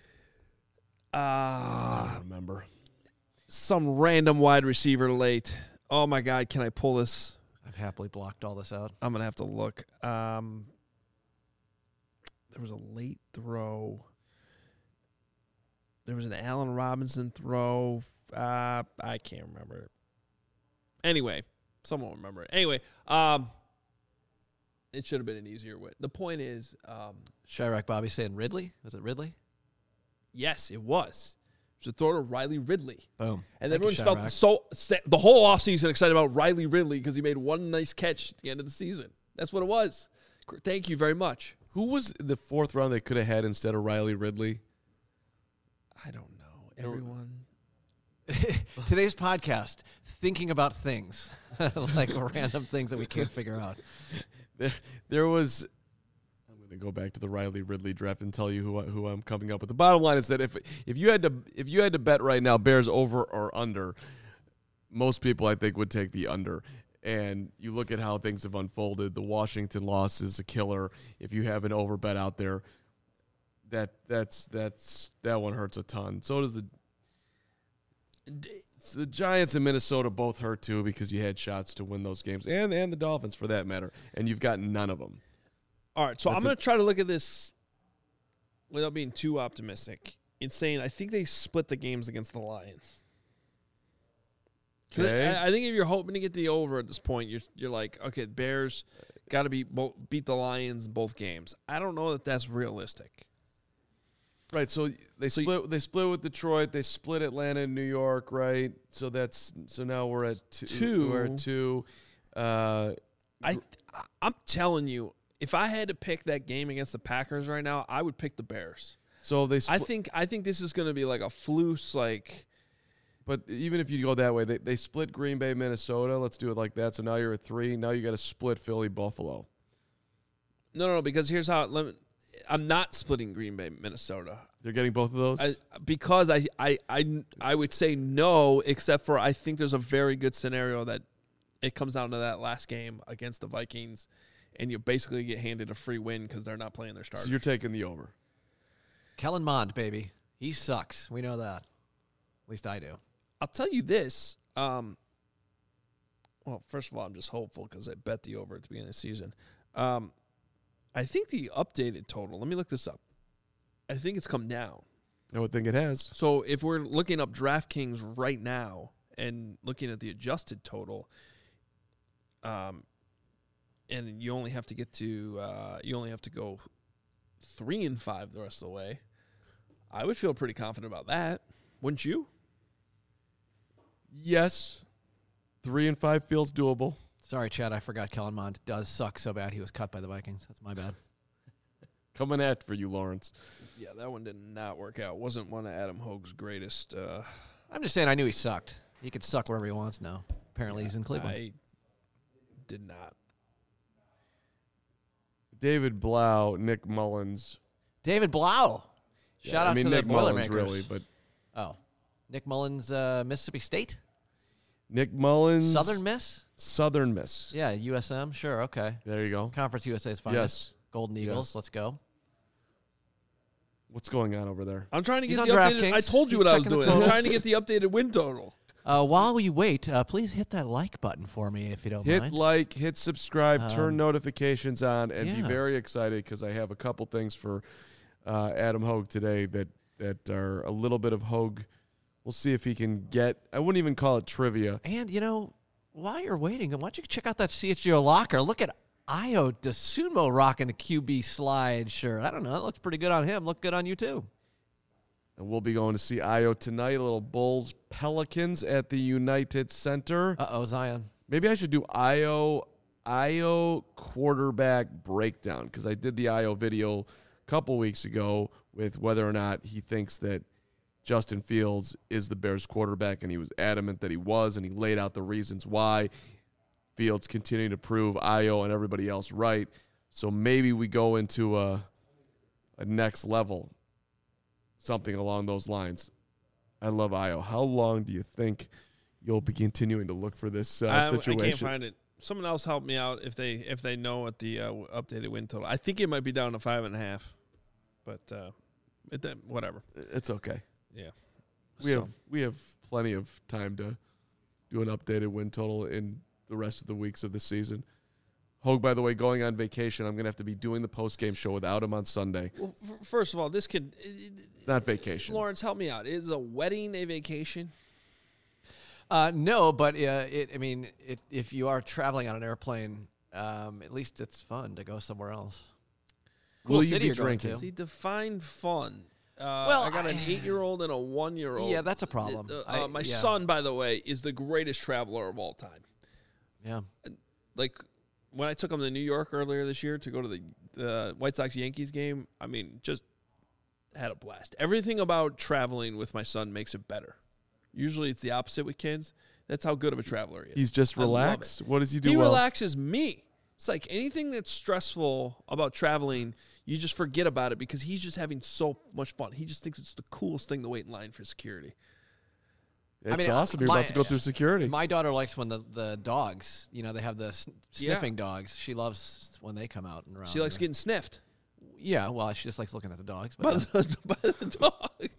Speaker 2: I don't remember.
Speaker 1: Some random wide receiver late. Oh, my God. Can I pull this?
Speaker 3: I've happily blocked all this out.
Speaker 1: I'm going to have to look. There was a late throw. There was an Allen Robinson throw. I can't remember it. Anyway, someone will remember it. Anyway, it should have been an easier win. The point is...
Speaker 3: Chirac Bobby saying Ridley? Was it Ridley?
Speaker 1: Yes, it was. It was a throw to Riley Ridley.
Speaker 3: Boom.
Speaker 1: And everyone felt the whole offseason excited about Riley Ridley because he made one nice catch at the end of the season. That's what it was. Thank you very much.
Speaker 2: Who was the 4th round they could have had instead of Riley Ridley?
Speaker 1: I don't know. Everyone.
Speaker 3: Today's podcast, thinking about things, like random things that we can't figure out.
Speaker 2: There was... I'm going to go back to the Riley Ridley draft and tell you who I'm coming up with. The bottom line is that if you had to bet right now Bears over or under, most people I think would take the under. And you look at how things have unfolded. The Washington loss is a killer. If you have an over bet out there, that one hurts a ton. So does the Giants and Minnesota both hurt too because you had shots to win those games, and the Dolphins for that matter, and you've got none of them.
Speaker 1: All right, so I'm going to try to look at this without being too optimistic in saying I think they split the games against the Lions.
Speaker 2: Okay.
Speaker 1: I think if you're hoping to get the over at this point, you're like, okay, the Bears got to beat the Lions in both games. I don't know that that's realistic.
Speaker 2: Right, so they split with Detroit. They split Atlanta and New York, right? So now we're at 2. We're at 2.
Speaker 1: I'm telling you, if I had to pick that game against the Packers right now, I would pick the Bears.
Speaker 2: So they.
Speaker 1: I think this is going to be like a flus, like.
Speaker 2: But even if you go that way, they split Green Bay, Minnesota. Let's do it like that. So now you're at 3. Now you got to split Philly, Buffalo.
Speaker 1: No, because here's how. I'm not splitting Green Bay, Minnesota.
Speaker 2: You're getting both of those?
Speaker 1: Because I would say no, except for I think there's a very good scenario that it comes down to that last game against the Vikings, and you basically get handed a free win because they're not playing their starters.
Speaker 2: So you're taking the over.
Speaker 3: Kellen Mond, baby. He sucks. We know that. At least I do.
Speaker 1: I'll tell you this. Well, first of all, I'm just hopeful because I bet the over at the beginning of the season. I think the updated total, let me look this up. I think it's come down.
Speaker 2: I would think it has.
Speaker 1: So if we're looking up DraftKings right now and looking at the adjusted total, and you only have to get to go 3-5 the rest of the way, I would feel pretty confident about that. Wouldn't you?
Speaker 2: Yes. 3-5 feels doable.
Speaker 3: Sorry, Chad, I forgot Kellen Mond does suck so bad he was cut by the Vikings. That's my bad.
Speaker 2: Coming at for you, Lawrence.
Speaker 1: Yeah, that one did not work out. Wasn't one of Adam Hogue's greatest.
Speaker 3: I'm just saying I knew he sucked. He could suck wherever he wants now. Apparently he's in Cleveland.
Speaker 1: I did not.
Speaker 2: David Blau, Nick Mullins.
Speaker 3: David Blau. Shout out to
Speaker 2: Nick
Speaker 3: the
Speaker 2: Mullins,
Speaker 3: Boilermakers.
Speaker 2: really, but
Speaker 3: Nick Mullins, Mississippi State.
Speaker 2: Nick Mullins,
Speaker 3: Southern Miss.
Speaker 2: Southern Miss.
Speaker 3: Yeah, USM. Sure, okay.
Speaker 2: There you go.
Speaker 3: Conference USA's finest.
Speaker 2: Yes.
Speaker 3: Golden Eagles.
Speaker 2: Yes.
Speaker 3: Let's go.
Speaker 2: What's going on over there?
Speaker 1: I'm trying to get
Speaker 3: He's
Speaker 1: the
Speaker 3: on
Speaker 1: updated.
Speaker 3: DraftKings.
Speaker 1: I told you
Speaker 3: He's
Speaker 1: what I was
Speaker 3: checking the
Speaker 1: doing. I'm
Speaker 3: totals.
Speaker 1: trying to get the updated win total.
Speaker 3: While we wait, please hit that like button for me if you don't
Speaker 2: Hit
Speaker 3: mind.
Speaker 2: like, hit subscribe, turn notifications on, and be
Speaker 3: yeah.
Speaker 2: very excited because I have a couple things for Adam Hogue today that are a little bit of Hogue. We'll see if he can get. I wouldn't even call it trivia.
Speaker 3: And, while you're waiting, why don't you check out that CHGO locker? Look at Io DeSumo rocking the QB slide shirt. I don't know. It looks pretty good on him. Look good on you, too.
Speaker 2: And we'll be going to see Io tonight, a little Bulls Pelicans at the United Center.
Speaker 3: Uh-oh, Zion.
Speaker 2: Maybe I should do Io quarterback breakdown because I did the Io video a couple weeks ago with whether or not he thinks that Justin Fields is the Bears quarterback, and he was adamant that he was, and he laid out the reasons why. Fields continuing to prove Io and everybody else right. So maybe we go into a next level, something along those lines. I love Io. How long do you think you'll be continuing to look for this situation?
Speaker 1: I can't find it. Someone else help me out if they know what the updated win total. I think it might be down to 5.5, but whatever.
Speaker 2: It's okay.
Speaker 1: Yeah,
Speaker 2: we have plenty of time to do an updated win total in the rest of the weeks of the season. Hogue, by the way, going on vacation. I'm going to have to be doing the post-game show without him on Sunday.
Speaker 1: Well, first of all, this could...
Speaker 2: Not vacation.
Speaker 1: Lawrence, help me out. Is a wedding a vacation?
Speaker 3: No, but if you are traveling on an airplane, at least it's fun to go somewhere else.
Speaker 2: Will you
Speaker 3: city
Speaker 2: be
Speaker 3: you're going
Speaker 2: drinking?
Speaker 3: to.
Speaker 1: See, define fun.
Speaker 3: Well,
Speaker 1: I got an 8-year-old and a 1-year-old.
Speaker 3: Yeah, that's a problem.
Speaker 1: My son, by the way, is the greatest traveler of all time.
Speaker 3: Yeah.
Speaker 1: Like, when I took him to New York earlier this year to go to the White Sox-Yankees game, I mean, just had a blast. Everything about traveling with my son makes it better. Usually it's the opposite with kids. That's how good of a traveler he is.
Speaker 2: He's just relaxed? What does he do
Speaker 1: He
Speaker 2: well?
Speaker 1: relaxes me. It's like anything that's stressful about traveling, you just forget about it because he's just having so much fun. He just thinks it's the coolest thing to wait in line for security.
Speaker 2: It's awesome. You're about to go through security.
Speaker 3: My daughter likes when the dogs, they have the sniffing dogs. She loves when they come out and around.
Speaker 1: She likes getting sniffed.
Speaker 3: Yeah, well, she just likes looking at the dogs.
Speaker 1: By
Speaker 3: But
Speaker 1: the dog.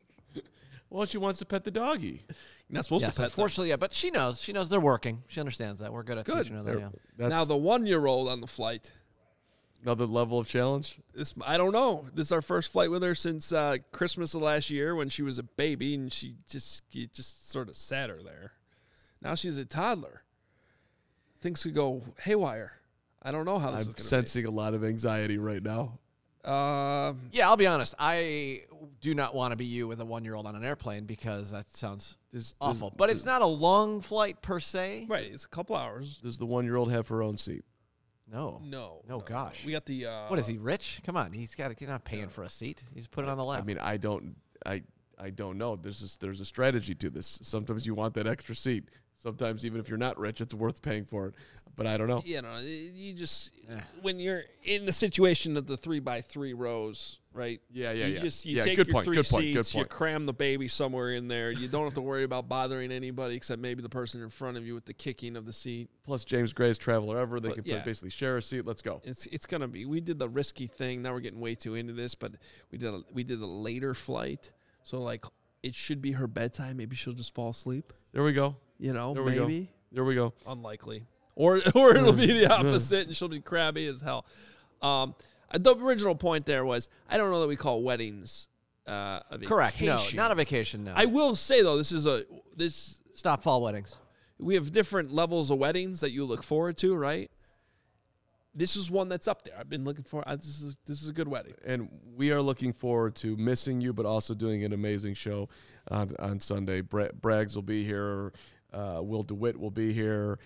Speaker 2: Well, she wants to pet the doggy.
Speaker 1: You're not supposed
Speaker 3: yes,
Speaker 1: to pet them.
Speaker 3: unfortunately, yeah. But she knows they're working. She understands that. We're good at teaching her that. Yeah.
Speaker 2: That's
Speaker 1: Now the 1-year-old on the flight.
Speaker 2: another level of challenge.
Speaker 1: I don't know. This is our first flight with her since Christmas of last year when she was a baby, and you just sort of sat her there. Now she's a toddler. Things could go haywire. I don't know how this is
Speaker 2: I'm
Speaker 1: going to be.
Speaker 2: sensing a lot of anxiety right now.
Speaker 3: Yeah, I'll be honest. I do not want to be you with a 1-year-old on an airplane because that sounds awful. But it's not a long flight per se.
Speaker 1: Right, it's a couple hours.
Speaker 2: Does the 1-year-old have her own seat?
Speaker 3: No.
Speaker 1: No,
Speaker 3: Gosh.
Speaker 1: We got the.
Speaker 3: What is he, rich? Come on, he's not paying for a seat. He's put it on the lap.
Speaker 2: I mean, I don't know. There's a strategy to this. Sometimes you want that extra seat. Sometimes even if you're not rich, it's worth paying for it. But I don't know.
Speaker 1: You just when you're in the situation of the 3x3 rows, right?
Speaker 2: Yeah.
Speaker 1: You
Speaker 2: Yeah,
Speaker 1: take
Speaker 2: good
Speaker 1: your
Speaker 2: point,
Speaker 1: 3
Speaker 2: good point,
Speaker 1: seats.
Speaker 2: good
Speaker 1: You
Speaker 2: point.
Speaker 1: cram the baby somewhere in there. You don't have to worry about bothering anybody except maybe the person in front of you with the kicking of the seat.
Speaker 2: Plus, James Gray's traveler ever. They
Speaker 1: But,
Speaker 2: can basically share a seat. Let's go.
Speaker 1: It's gonna be. We did the risky thing. Now we're getting way too into this, but we did a later flight, so like it should be her bedtime. Maybe she'll just fall asleep.
Speaker 2: There we go.
Speaker 1: Maybe.
Speaker 2: There we go.
Speaker 1: Unlikely. Or it'll be the opposite, and she'll be crabby as hell. The original point there was I don't know that we call weddings a vacation.
Speaker 3: Correct. No, not a vacation. No.
Speaker 1: I will say though,
Speaker 3: Stop fall weddings.
Speaker 1: we have different levels of weddings that you look forward to, right? This is one that's up there. I've been looking for. This is a good wedding.
Speaker 2: And we are looking forward to missing you, but also doing an amazing show on Sunday. Braggs will be here. Will DeWitt will be here.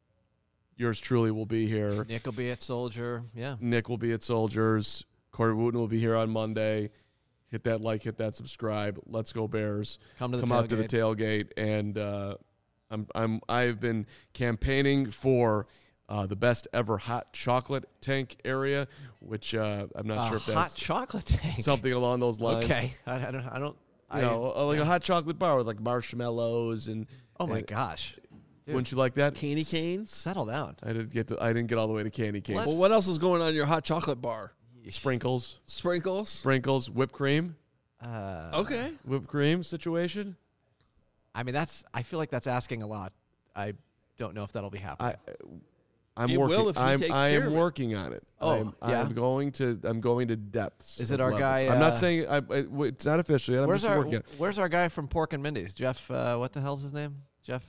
Speaker 2: Yours truly will be here.
Speaker 3: Nick will be at Soldier. Yeah.
Speaker 2: Nick will be at Soldiers. Corey Wooten will be here on Monday. Hit that like, hit that subscribe. Let's go Bears.
Speaker 3: Come
Speaker 2: out to the tailgate. And I've been campaigning for the best ever hot chocolate tank area, which I'm not sure if that's
Speaker 3: hot chocolate tank.
Speaker 2: something along those lines.
Speaker 3: Okay. I don't.
Speaker 2: Like a hot chocolate bar with like marshmallows and.
Speaker 3: Oh my gosh. Dude,
Speaker 2: Wouldn't you like that?
Speaker 1: Candy canes.
Speaker 3: settle down.
Speaker 2: I didn't get all the way to candy canes.
Speaker 1: Well, what else is going on in your hot chocolate bar?
Speaker 2: Sprinkles, whipped cream.
Speaker 1: Okay.
Speaker 2: Whipped cream situation.
Speaker 3: I mean, I feel like that's asking a lot. I don't know if that'll be happening.
Speaker 2: I'm
Speaker 1: It
Speaker 2: working.
Speaker 1: will if he takes
Speaker 2: I
Speaker 1: care
Speaker 2: am
Speaker 1: of it.
Speaker 2: working on it.
Speaker 3: Oh, yeah?
Speaker 2: I'm going to depths.
Speaker 3: Is it
Speaker 2: of
Speaker 3: our
Speaker 2: levels.
Speaker 3: guy,
Speaker 2: I'm not saying it's not official yet. I'm just working it.
Speaker 3: Where's our guy from Pork and Mindy's? Jeff, what the hell's his name? Jeff,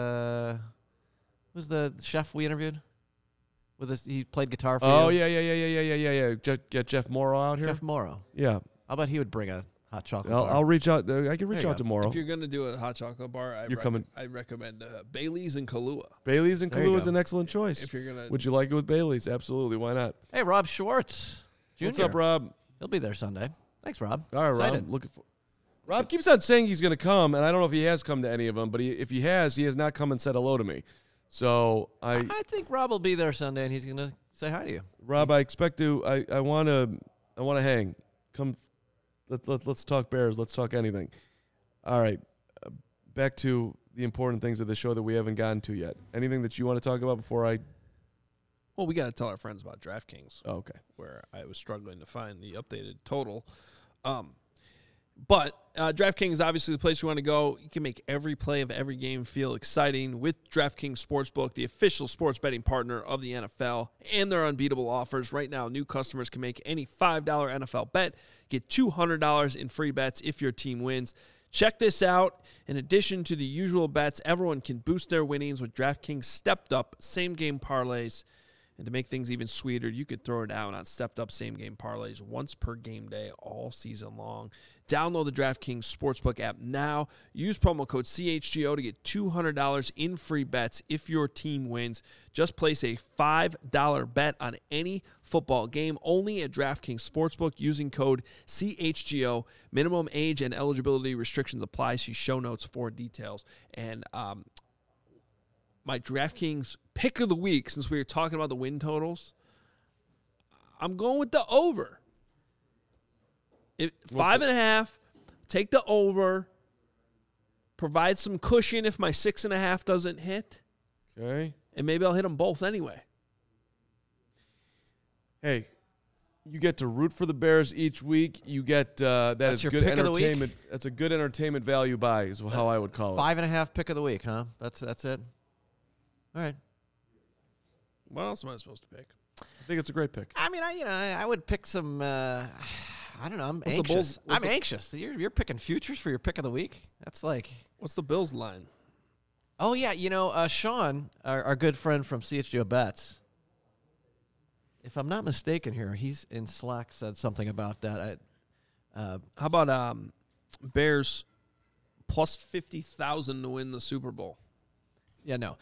Speaker 3: who's the chef we interviewed? He played guitar for you.
Speaker 2: Oh, yeah. Get Jeff Morrow out here.
Speaker 3: Jeff Morrow.
Speaker 2: Yeah.
Speaker 3: How about he would bring a hot chocolate bar?
Speaker 2: I'll reach out. I can reach out tomorrow.
Speaker 1: If you're going to do a hot chocolate bar, I recommend Bailey's and Kahlua.
Speaker 2: Bailey's and Kahlua is an excellent choice.
Speaker 1: If you're gonna,
Speaker 2: would you like it with Bailey's? Absolutely. Why not?
Speaker 3: Hey, Rob Schwartz Jr.
Speaker 2: What's up, Rob?
Speaker 3: He'll be there Sunday. Thanks, Rob.
Speaker 2: All right,
Speaker 3: Excited.
Speaker 2: Rob. Looking for. Rob keeps on saying he's going to come, and I don't know if he has come to any of them, but if he has not come and said hello to me. So I
Speaker 3: think Rob will be there Sunday, and he's going to say hi to you.
Speaker 2: Rob, I expect to. I want to hang. Come. Let's talk Bears. Let's talk anything. All right. Back to the important things of the show that we haven't gotten to yet. Anything that you want to talk about before I?
Speaker 1: Well, we got to tell our friends about DraftKings.
Speaker 2: Oh, okay.
Speaker 1: Where I was struggling to find the updated total. But DraftKings is obviously the place you want to go. You can make every play of every game feel exciting with DraftKings Sportsbook, the official sports betting partner of the NFL, and their unbeatable offers. Right now, new customers can make any $5 NFL bet, get $200 in free bets if your team wins. Check this out. In addition to the usual bets, everyone can boost their winnings with DraftKings stepped-up same-game parlays. And to make things even sweeter, you could throw it down on stepped-up same-game parlays once per game day all season long. Download the DraftKings Sportsbook app now. Use promo code CHGO to get $200 in free bets if your team wins. Just place a $5 bet on any football game only at DraftKings Sportsbook using code CHGO. Minimum age and eligibility restrictions apply. See show notes for details. And my DraftKings pick of the week, since we were talking about the win totals, I'm going with the over. 5.5, take the over. Provide some cushion if my 6.5 doesn't hit.
Speaker 2: Okay.
Speaker 1: And maybe I'll hit them both anyway.
Speaker 2: Hey, you get to root for the Bears each week. You get that's good entertainment. That's a good entertainment value buy, is how I would call it.
Speaker 3: 5.5 pick of the week, huh? That's it. All right.
Speaker 1: What else am I supposed to pick?
Speaker 2: I think it's a great pick.
Speaker 3: I mean, I would pick some. I don't know. I'm anxious. I'm anxious. You're picking futures for your pick of the week. That's like.
Speaker 1: What's the Bills line?
Speaker 3: Oh yeah, Sean, our good friend from CHGO Bets. If I'm not mistaken, here he's in Slack said something about that.
Speaker 1: How about Bears plus 50,000 to win the Super Bowl?
Speaker 3: Yeah, no.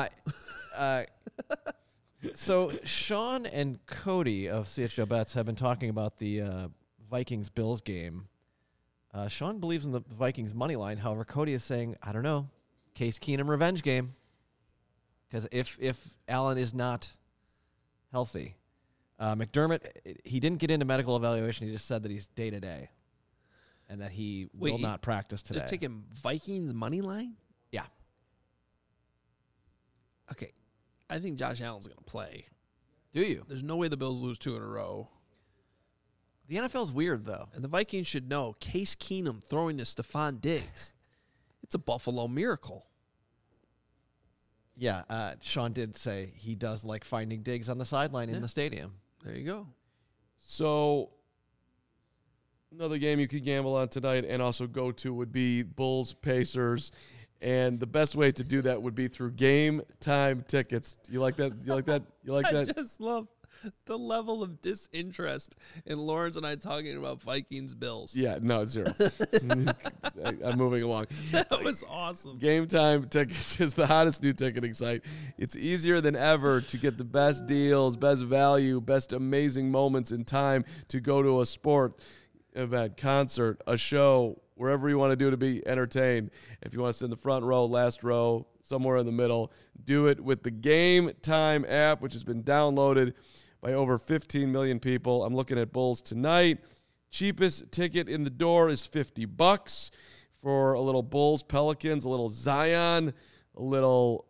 Speaker 3: So Sean and Cody of CHGO Bets have been talking about the Vikings-Bills game. Sean believes in the Vikings money line. However, Cody is saying, I don't know, Case Keenum revenge game. Because if Allen is not healthy, McDermott, he didn't get into medical evaluation. He just said that he's day-to-day and that he will not practice today.
Speaker 1: They're taking Vikings money line?
Speaker 3: Yeah.
Speaker 1: Okay. I think Josh Allen's going to play.
Speaker 3: Do you?
Speaker 1: There's no way the Bills lose 2 in a row.
Speaker 3: The NFL's weird, though.
Speaker 1: And the Vikings should know Case Keenum throwing to Stephon Diggs. It's a Buffalo miracle.
Speaker 3: Yeah, Sean did say he does like finding Diggs on the sideline in the stadium.
Speaker 1: There you go.
Speaker 2: So another game you could gamble on tonight and also go to would be Bulls-Pacers. And the best way to do that would be through Game Time tickets. You like that? You like that? You like that?
Speaker 1: I just love the level of disinterest in Lawrence and I talking about Vikings Bills.
Speaker 2: Yeah, no, 0. I'm moving along.
Speaker 1: That was awesome.
Speaker 2: Game Time tickets is the hottest new ticketing site. It's easier than ever to get the best deals, best value, best amazing moments in time to go to a sport event, concert, a show, wherever you want to do to be entertained. If you want to sit in the front row, last row, somewhere in the middle, do it with the Game Time app, which has been downloaded by over 15 million people. I'm looking at Bulls tonight. Cheapest ticket in the door is $50 for a little Bulls, Pelicans, a little Zion, a little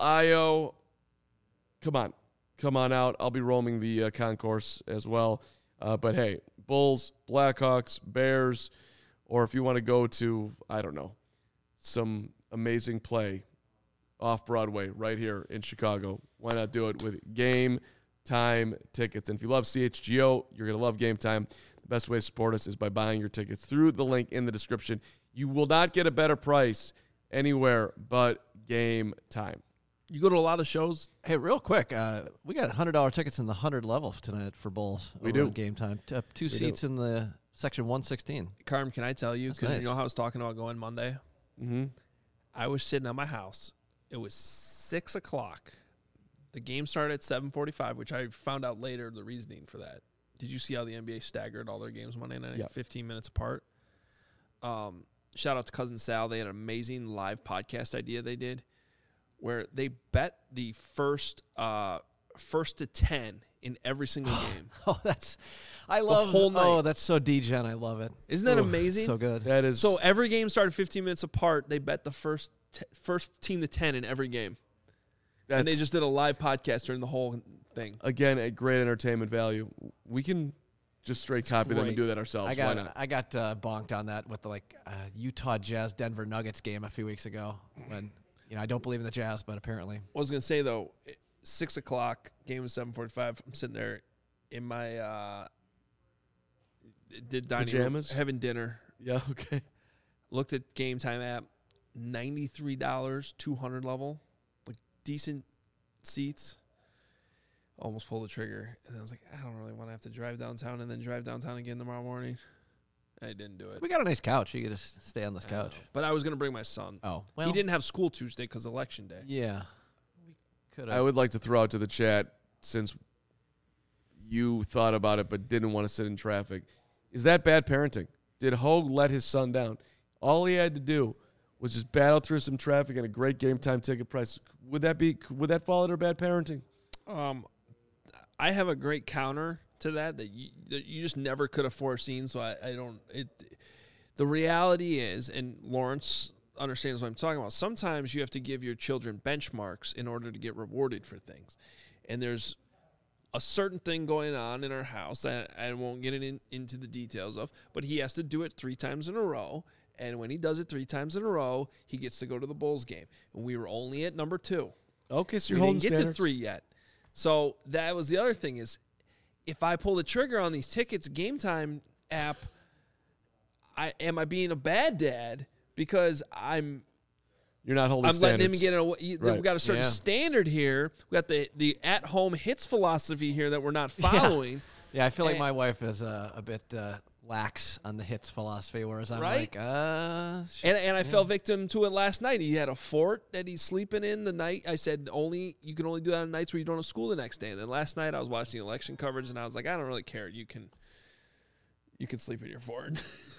Speaker 2: Io. Come on out. I'll be roaming the concourse as well. But hey, Bulls, Blackhawks, Bears, or if you want to go to, I don't know, some amazing play off Broadway right here in Chicago, why not do it with Game Time tickets? And if you love CHGO, you're going to love Game Time. The best way to support us is by buying your tickets through the link in the description. You will not get a better price anywhere but Game Time.
Speaker 1: You go to a lot of shows?
Speaker 3: Hey, real quick, we got $100 tickets in the 100 level tonight for Bulls.
Speaker 2: We do.
Speaker 3: Game Time. Two seats in the section 116.
Speaker 1: Carm, can I tell you? Because
Speaker 3: nice.
Speaker 1: you know how I was talking about going Monday?
Speaker 2: Mm-hmm.
Speaker 1: I was sitting at my house. It was 6 o'clock. The game started at 7:45, which I found out later the reasoning for that. Did you see how the NBA staggered all their games Monday night?
Speaker 2: Yep.
Speaker 1: 15 minutes apart. Shout out to Cousin Sal. They had an amazing live podcast idea they did where they bet the first to 10 in every single game.
Speaker 3: I love
Speaker 1: the whole night.
Speaker 3: Oh, that's so degen. I love it.
Speaker 1: Isn't that amazing?
Speaker 3: So good.
Speaker 2: That is.
Speaker 1: So every game started 15 minutes apart. They bet the first team to 10 in every game. And they just did a live podcast during the whole thing.
Speaker 2: Again, a great entertainment value. We can just straight copy them and do that ourselves. Why not?
Speaker 3: I got bonked on that with the Utah Jazz Denver Nuggets game a few weeks ago. When I don't believe in the Jazz, but apparently.
Speaker 1: I was gonna say though, 6 o'clock, game was 7:45. I'm sitting there in my dining
Speaker 2: pajamas,
Speaker 1: room, having dinner.
Speaker 2: Yeah, okay.
Speaker 1: Looked at Game Time app, $93, 200 level, like decent seats. Almost pulled the trigger, and then I was like, I don't really want to have to drive downtown and then drive downtown again tomorrow morning. I didn't do it.
Speaker 3: We got a nice couch. You could just stay on this couch.
Speaker 1: But I was going to bring my son.
Speaker 3: Oh,
Speaker 1: well. He didn't have school Tuesday because Election Day.
Speaker 3: Yeah.
Speaker 2: I would like to throw out to the chat, since you thought about it but didn't want to sit in traffic, is that bad parenting? Did Hogue let his son down? All he had to do was just battle through some traffic and a great Game Time ticket price. Would that fall under bad parenting?
Speaker 1: I have a great counter to that you just never could have foreseen. So I don't. The reality is, and Lawrence understands what I'm talking about. Sometimes you have to give your children benchmarks in order to get rewarded for things, and there's a certain thing going on in our house that I won't get into the details of, but he has to do it 3 times in a row. And when he does it 3 times in a row, he gets to go to the Bulls game. And we were only at number 2.
Speaker 2: Okay, so you're
Speaker 1: we
Speaker 2: holding
Speaker 1: didn't get
Speaker 2: standards.
Speaker 1: to 3 yet. So that was the other thing is, if I pull the trigger on these tickets, Game Time app, am I being a bad dad because
Speaker 2: You're not holding standards.
Speaker 1: letting him get it.
Speaker 2: Right.
Speaker 1: We've got a certain standard here. We got the at-home hits philosophy here that we're not following.
Speaker 3: Yeah, I feel like my wife is a bit lax on the hits philosophy, whereas I'm like,
Speaker 1: and I fell victim to it last night. He had a fort that he's sleeping in the night. I said, you can only do that on nights where you don't have school the next day. And then last night I was watching election coverage, and I was like, I don't really care. You can sleep in your fort.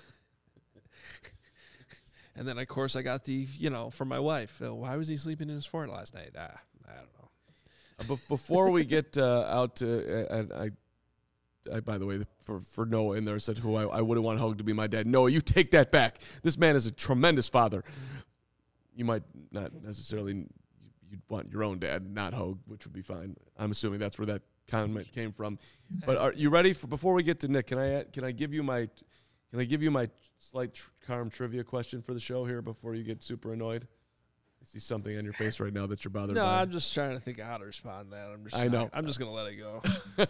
Speaker 1: And then, of course, I got from my wife, why was he sleeping in his fort last night? I don't know.
Speaker 2: Before we get out to, I, by the way, for Noah in there said who I wouldn't want Hogue to be my dad. Noah, you take that back. This man is a tremendous father. You might not necessarily, you'd want your own dad, not Hogue, which would be fine. I'm assuming that's where that comment came from. But are you ready before we get to Nick? Can I give you my slight Carm trivia question for the show here before you get super annoyed? I see something on your face right now that you're bothered by.
Speaker 1: No, I'm just trying to think of how to respond to that. I know. I'm just going to let it go.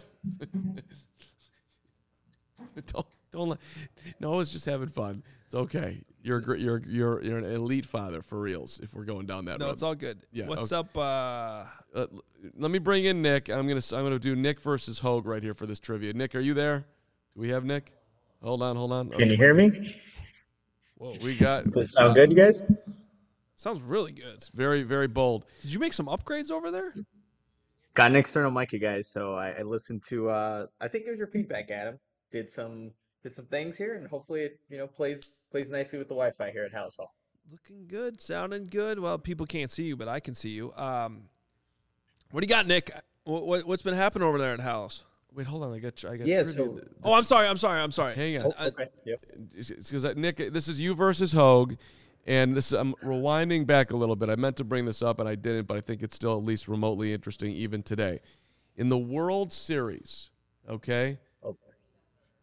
Speaker 2: Don't Noah's just having fun. It's okay. You're an elite father for reals. If we're going down that road,
Speaker 1: no, it's all good.
Speaker 2: Yeah.
Speaker 1: What's
Speaker 2: okay.
Speaker 1: up?
Speaker 2: Let me bring in Nick. I'm gonna do Nick versus Hogue right here for this trivia. Nick, are you there? Do we have Nick? Hold on. Okay.
Speaker 5: Can you hear me?
Speaker 2: Whoa, we got.
Speaker 5: Does this sound good, you guys?
Speaker 1: Sounds really good.
Speaker 2: It's very, very bold.
Speaker 1: Did you make some upgrades over there?
Speaker 5: Got an external mic, you guys. So I listened to. I think it was your feedback, Adam. Did some things here, and hopefully it plays nicely with the Wi-Fi here at House Hall.
Speaker 1: Looking good, sounding good. Well, people can't see you, but I can see you. What do you got, Nick? What's been happening over there at House?
Speaker 2: Wait, hold on. I got.
Speaker 5: Yeah.
Speaker 2: So.
Speaker 1: Oh, I'm sorry.
Speaker 2: Hang on.
Speaker 5: Oh, okay. Yep.
Speaker 2: Because Nick, this is you versus Hogue, and I'm rewinding back a little bit. I meant to bring this up and I didn't, but I think it's still at least remotely interesting even today. In the World Series, okay.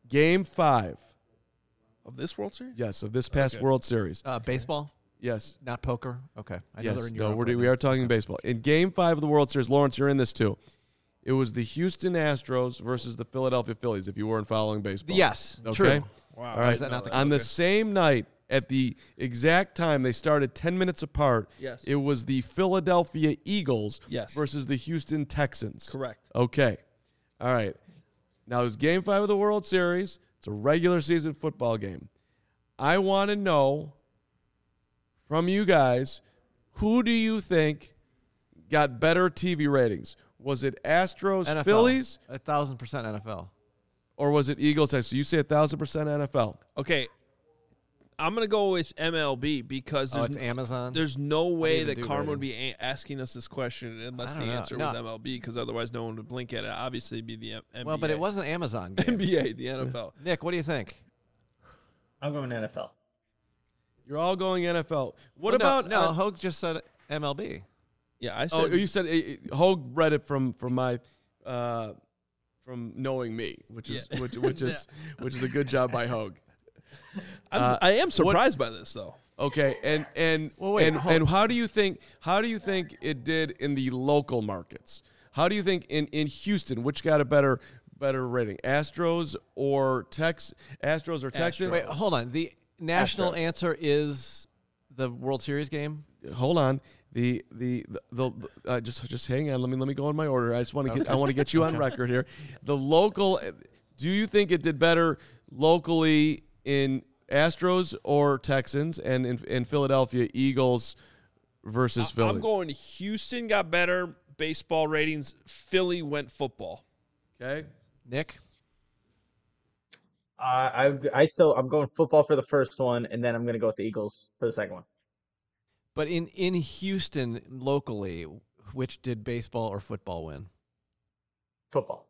Speaker 2: Game 5
Speaker 1: of this World Series.
Speaker 2: Yes, of this past
Speaker 1: Okay.
Speaker 2: World Series.
Speaker 3: Baseball,
Speaker 2: Yes.
Speaker 3: not poker. Okay, I know they're
Speaker 2: Yes.
Speaker 3: in
Speaker 2: No,
Speaker 3: Europe right
Speaker 2: we
Speaker 3: now.
Speaker 2: are talking baseball. In Game 5 of the World Series, Lawrence, you're in this too. It was the Houston Astros versus the Philadelphia Phillies, if you weren't following baseball.
Speaker 3: Yes,
Speaker 2: Okay.
Speaker 3: true.
Speaker 1: Wow.
Speaker 2: All right.
Speaker 3: Is that not the
Speaker 2: On the
Speaker 1: Okay.
Speaker 2: same night, at the exact time, they started 10 minutes apart.
Speaker 1: Yes.
Speaker 2: It was the Philadelphia Eagles
Speaker 1: Yes.
Speaker 2: versus the Houston Texans.
Speaker 1: Correct.
Speaker 2: Okay. All right. Now, it's Game 5 of the World Series. It's a regular season football game. I want to know from you guys, who do you think got better TV ratings? Was it Astros,
Speaker 3: NFL.
Speaker 2: Phillies,
Speaker 3: 1,000% NFL.
Speaker 2: or was it Eagles? So you say 1,000% NFL.
Speaker 1: Okay. I'm gonna go with MLB because
Speaker 3: Oh,
Speaker 1: there's
Speaker 3: it's Amazon.
Speaker 1: there's no way
Speaker 3: even
Speaker 1: that
Speaker 3: do
Speaker 1: Karma would
Speaker 3: ratings?
Speaker 1: be asking us this question unless
Speaker 3: I
Speaker 1: the
Speaker 3: don't know.
Speaker 1: answer was MLB, because otherwise no one would blink at it. Obviously, it'd be the NBA.
Speaker 3: Well, but it wasn't Amazon game.
Speaker 1: NBA, the NFL.
Speaker 3: Nick, what do you think?
Speaker 5: I'm going NFL.
Speaker 2: You're all going NFL. What
Speaker 3: Well,
Speaker 2: about
Speaker 3: no? Hogue just said MLB.
Speaker 1: Yeah, I
Speaker 2: Oh,
Speaker 1: said.
Speaker 2: you said Hogue read it from my from knowing me, which is
Speaker 1: Yeah.
Speaker 2: which is a good job by Hogue.
Speaker 1: I am surprised by this though.
Speaker 2: Okay, and
Speaker 3: Well, wait,
Speaker 2: and how do you think it did in the local markets? How do you think in Houston, which got a better rating, Astros or Texans?
Speaker 3: Wait, hold on. The national
Speaker 5: Astros.
Speaker 3: answer is the World Series game.
Speaker 2: Hold on. The just hang on. Let me go in my order. I just want to I want to get you on record here. The local. Do you think it did better locally in Astros or Texans, and in Philadelphia, Eagles versus Philly?
Speaker 1: I'm going Houston got better baseball ratings. Philly went football.
Speaker 2: Okay.
Speaker 3: Nick,
Speaker 5: I'm going football for the first one, and then I'm going to go with the Eagles for the second one.
Speaker 3: but in Houston locally, which did baseball or football win?
Speaker 5: Football.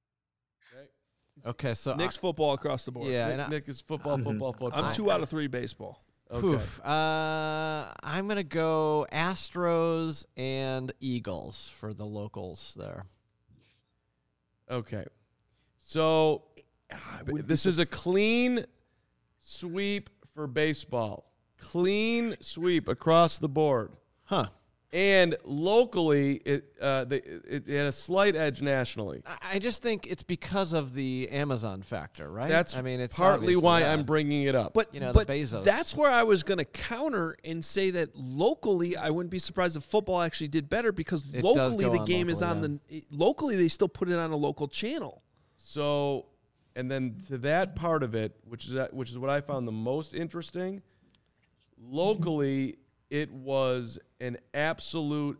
Speaker 3: Okay, so
Speaker 1: Knicks football across the board.
Speaker 3: yeah, and
Speaker 2: Nick is football.
Speaker 1: I'm 2 out of 3 baseball.
Speaker 2: Okay.
Speaker 3: I'm gonna go Astros and Eagles for the locals there.
Speaker 2: Okay. So this is a clean sweep for baseball. Clean sweep across the board.
Speaker 3: Huh.
Speaker 2: And locally, it had a slight edge nationally.
Speaker 3: I just think it's because of the Amazon factor, right?
Speaker 2: That's
Speaker 3: I mean, it's
Speaker 2: partly
Speaker 3: obviously
Speaker 2: why
Speaker 3: that.
Speaker 2: I'm bringing it up.
Speaker 1: But
Speaker 3: You know, the
Speaker 1: but
Speaker 3: Bezos.
Speaker 1: that's where I was going to counter and say that locally, I wouldn't be surprised if football actually did better because
Speaker 3: It does
Speaker 1: locally
Speaker 3: go
Speaker 1: the
Speaker 3: on
Speaker 1: game is
Speaker 3: locally,
Speaker 1: on locally they still put it on a local channel.
Speaker 2: So, and then to that part of it, which is what I found the most interesting, locally it was an absolute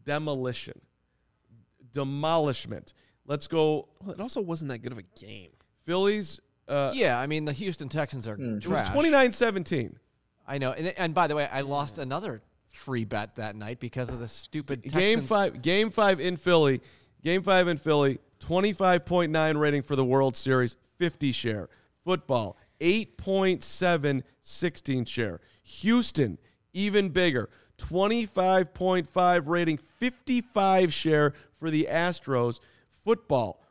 Speaker 2: demolishment. Let's go.
Speaker 1: Well, it also wasn't that good of a game.
Speaker 2: Phillies.
Speaker 3: Yeah, I mean, the Houston Texans are
Speaker 2: It was
Speaker 3: trash.
Speaker 2: 29-17.
Speaker 3: I know. And by the way, I lost another free bet that night because of the stupid
Speaker 2: Game
Speaker 3: Texans.
Speaker 2: Game 5 in Philly. 25.9 rating for the World Series, 50 share. Football, 8.7, 16 share. Houston, even bigger, 25.5 rating, 55 share for the Astros. Football,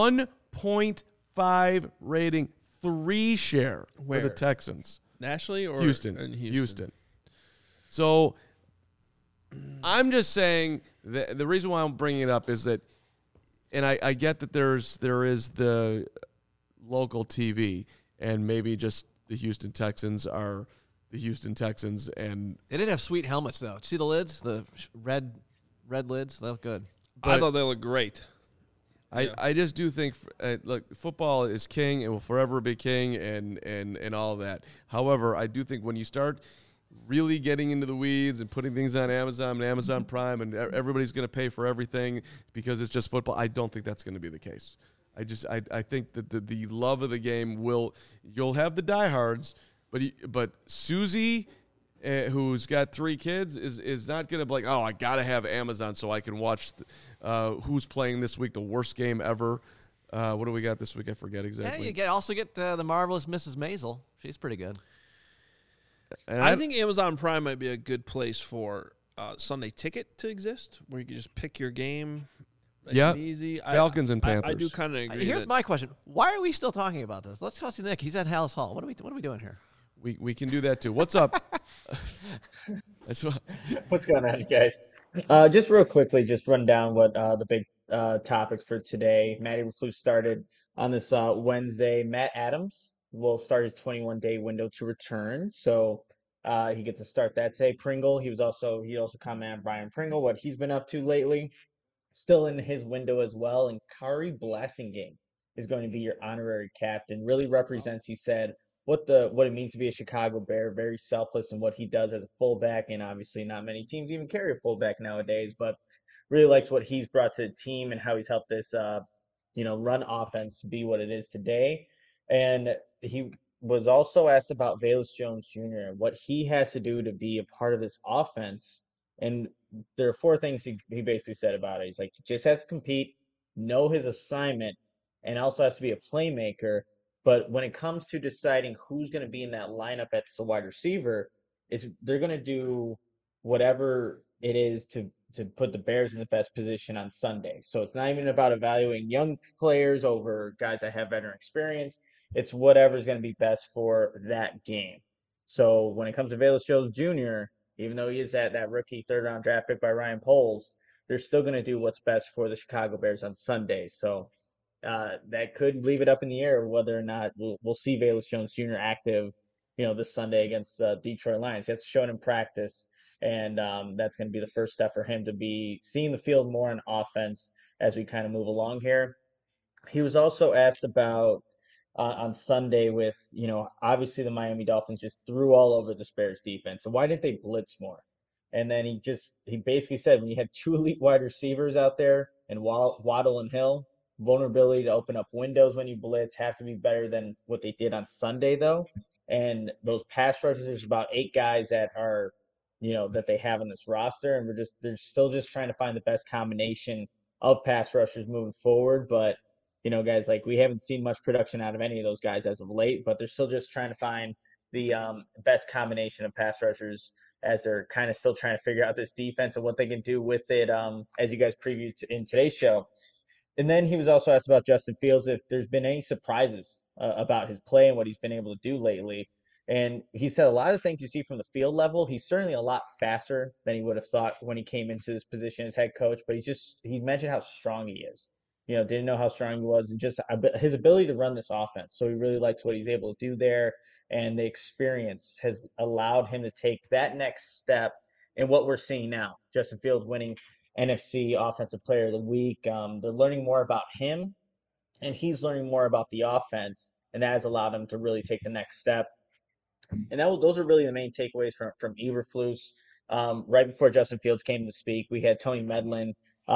Speaker 2: 1.5 rating, 3 share for
Speaker 1: Where?
Speaker 2: the Texans.
Speaker 1: Nationally or
Speaker 2: Houston.
Speaker 1: in
Speaker 2: Houston. So I'm just saying that the reason why I'm bringing it up is that, and I get that there is the local TV, and maybe just the Houston Texans are the Houston Texans, and
Speaker 3: They did have sweet helmets, though. Did you see the lids? The red lids? They look good.
Speaker 1: I thought they looked great.
Speaker 2: I just do think look, football is king and will forever be king, and all of that. However, I do think when you start really getting into the weeds and putting things on Amazon and Amazon Prime, and everybody's going to pay for everything because it's just football, I don't think that's going to be the case. I think that the love of the game you'll have the diehards, but Susie, who's got 3 kids, is not going to be like, oh, I got to have Amazon so I can watch who's playing this week, the worst game ever. What do we got this week? I forget exactly.
Speaker 3: Yeah, you also get the marvelous Mrs. Maisel. She's pretty good.
Speaker 2: And
Speaker 1: I think Amazon Prime might be a good place for Sunday Ticket to exist, where you can just pick your game.
Speaker 2: Yeah,
Speaker 1: easy.
Speaker 2: Falcons and Panthers.
Speaker 1: I do kind of agree.
Speaker 3: Here's my question: why are we still talking about this? Let's talk to Nick. He's at Hallis Hall. What are we doing here?
Speaker 2: We can do that too. What's up?
Speaker 5: What's going on, guys? Just real quickly, just run down what the big topics for today. Matty Eberflus started on this Wednesday. Matt Adams will start his 21-day window to return, so he gets to start that today. Pringle, he also commented on Brian Pringle, what he's been up to lately. Still in his window as well, and Kari Blasingame is going to be your honorary captain. Really represents, he said, what it means to be a Chicago Bear. Very selfless in what he does as a fullback, and obviously not many teams even carry a fullback nowadays, but really likes what he's brought to the team and how he's helped this run offense be what it is today. And he was also asked about Velus Jones Jr. and what he has to do to be a part of this offense. And there are 4 things he basically said about it. He's like, he just has to compete, know his assignment, and also has to be a playmaker. But when it comes to deciding who's going to be in that lineup at the wide receiver, they're going to do whatever it is to put the Bears in the best position on Sunday. So it's not even about evaluating young players over guys that have veteran experience. It's whatever's going to be best for that game. So when it comes to Velus Jones Jr., even though he is that rookie 3rd-round draft pick by Ryan Poles, they're still going to do what's best for the Chicago Bears on Sunday. So that could leave it up in the air whether or not we'll see Velus Jones Jr. active, this Sunday against Detroit Lions. He has to show it in practice, and that's going to be the first step for him to be seeing the field more on offense as we kind of move along here. He was also asked about on Sunday with, obviously the Miami Dolphins just threw all over the Bears defense. So why didn't they blitz more? And then he basically said when you had 2 elite wide receivers out there and Waddle and Hill, vulnerability to open up windows when you blitz have to be better than what they did on Sunday, though. And those pass rushers, there's about 8 guys that are, that they have on this roster. And they're still just trying to find the best combination of pass rushers moving forward. But, guys, like we haven't seen much production out of any of those guys as of late, but they're still just trying to find the best combination of pass rushers as they're kind of still trying to figure out this defense and what they can do with it, as you guys previewed in today's show. And then he was also asked about Justin Fields, if there's been any surprises about his play and what he's been able to do lately. And he said a lot of things you see from the field level. He's certainly a lot faster than he would have thought when he came into this position as head coach, but he mentioned how strong he is. Didn't know how strong he was, and just his ability to run this offense. So he really likes what he's able to do there, and the experience has allowed him to take that next step in what we're seeing now. Justin Fields winning NFC Offensive Player of the Week. They're learning more about him, and he's learning more about the offense, and that has allowed him to really take the next step. And those are really the main takeaways from Eberflus. Right before Justin Fields came to speak, we had Tony Medlin,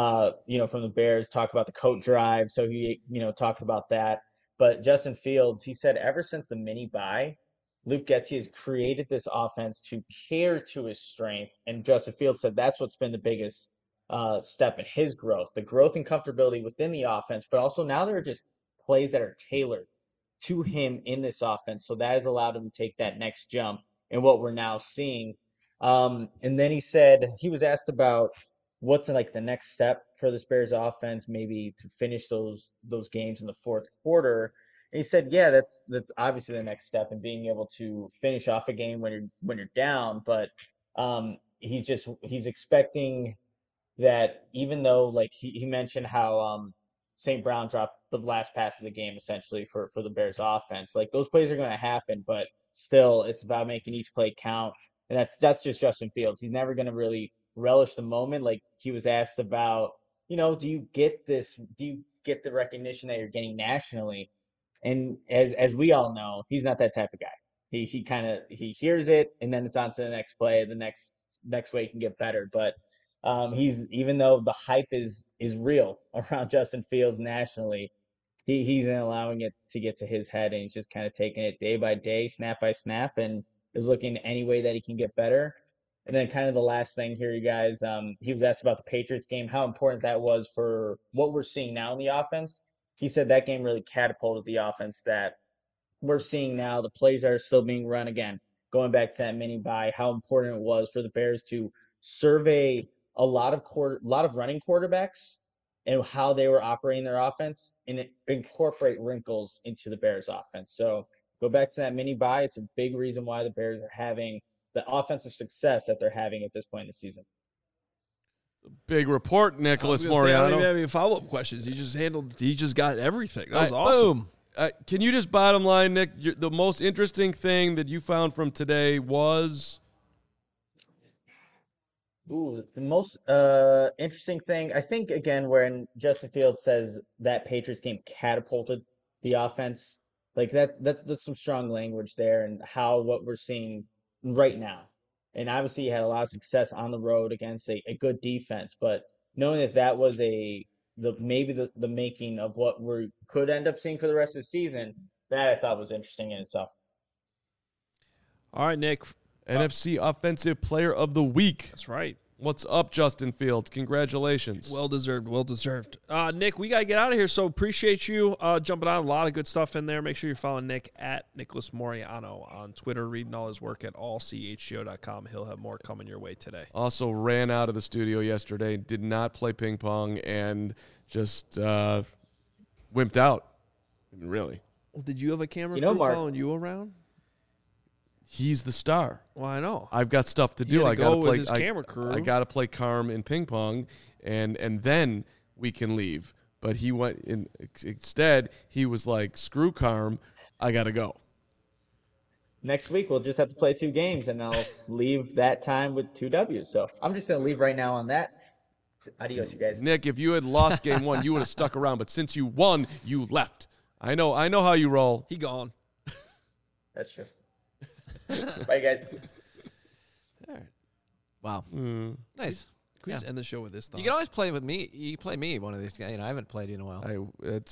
Speaker 5: from the Bears talk about the coat drive. So he, talked about that. But Justin Fields, he said ever since the mini bye, Luke Getsy has created this offense to cater to his strength. And Justin Fields said that's what's been the biggest step in his growth, the growth and comfortability within the offense, but also now there are just plays that are tailored to him in this offense. So that has allowed him to take that next jump in what we're now seeing. And then he said, he was asked about what's like the next step for this Bears offense, maybe to finish those games in the 4th quarter. And he said, yeah, that's obviously the next step in being able to finish off a game when you're down. But he's expecting that, even though like he mentioned how St. Brown dropped the last pass of the game essentially for the Bears offense. Like those plays are going to happen, but still it's about making each play count. And that's just Justin Fields. He's never going to really relish the moment. Like he was asked about, do you get the recognition that you're getting nationally? And as we all know, he's not that type of guy. He hears it and then it's on to the next play, the next way he can get better. But even though the hype is real around Justin Fields nationally, he's allowing it to get to his head, and he's just kind of taking it day by day, snap by snap, and is looking any way that he can get better. And then kind of the last thing here, you guys, he was asked about the Patriots game, how important that was for what we're seeing now in the offense. He said that game really catapulted the offense that we're seeing now, the plays that are still being run again, going back to that mini bye, how important it was for the Bears to survey a lot of running quarterbacks and how they were operating their offense and incorporate wrinkles into the Bears offense. So go back to that mini bye. It's a big reason why the Bears are having the offensive success that they're having at this point in the season.
Speaker 2: Big report, Nicholas Moreano.
Speaker 1: I don't even have any follow-up questions. He just got everything. That was awesome.
Speaker 3: Boom.
Speaker 2: Can you just bottom line, Nick, the most interesting thing that you found from today was?
Speaker 5: Ooh, the most interesting thing, I think, again, when Justin Fields says that Patriots game catapulted the offense, like that's some strong language there, and what we're seeing right now. And obviously, he had a lot of success on the road against a good defense, but knowing that was maybe the making of what we could end up seeing for the rest of the season, that I thought was interesting in itself.
Speaker 1: All right, Nick.
Speaker 2: NFC Offensive Player of the Week.
Speaker 1: That's right.
Speaker 2: What's up, Justin Fields? Congratulations.
Speaker 1: Well deserved. Nick, we got to get out of here, so appreciate you jumping on. A lot of good stuff in there. Make sure you're following Nick at Nicholas Moreano on Twitter, reading all his work at allchgo.com. He'll have more coming your way today.
Speaker 2: Also ran out of the studio yesterday, did not play ping pong, and just wimped out. Really.
Speaker 1: Well, did you have a camera crew following you around?
Speaker 2: He's the star.
Speaker 1: Well, I know.
Speaker 2: I've got stuff to do.
Speaker 1: I got to play his camera crew.
Speaker 2: I got to play Carm in ping pong, and then we can leave. But he went in. Instead, he was like, "Screw Carm, I got to go."
Speaker 5: Next week we'll just have to play 2 games, and I'll leave that time with 2 W's. So I'm just gonna leave right now on that. Adios, you guys.
Speaker 2: Nick, if you had lost game 1, you would have stuck around. But since you won, you left. I know how you roll.
Speaker 1: He gone.
Speaker 5: That's true. Bye, guys.
Speaker 3: All right. Wow. Nice.
Speaker 1: Can we just end the show with this thought?
Speaker 3: You can always play with me. You play me one of these guys. I haven't played you in a while.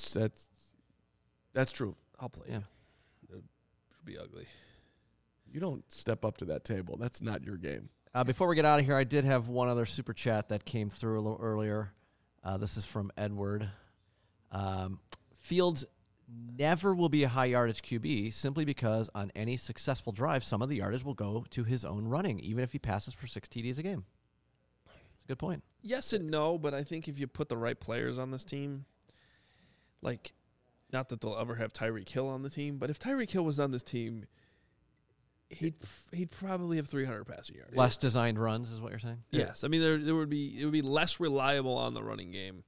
Speaker 2: That's true.
Speaker 1: I'll play you. It'll be ugly.
Speaker 2: You don't step up to that table. That's not your game.
Speaker 3: Before we get out of here, I did have one other super chat that came through a little earlier. This is from Edward. Fields never will be a high yardage QB simply because on any successful drive, some of the yardage will go to his own running, even if he passes for 6 TDs a game. That's a good point.
Speaker 1: Yes and no, but I think if you put the right players on this team, like, not that they'll ever have Tyreek Hill on the team, but if Tyreek Hill was on this team, he'd probably have 300 passing yards.
Speaker 3: Less designed runs is what you're saying?
Speaker 1: Yes. I mean, it would be less reliable on the running game.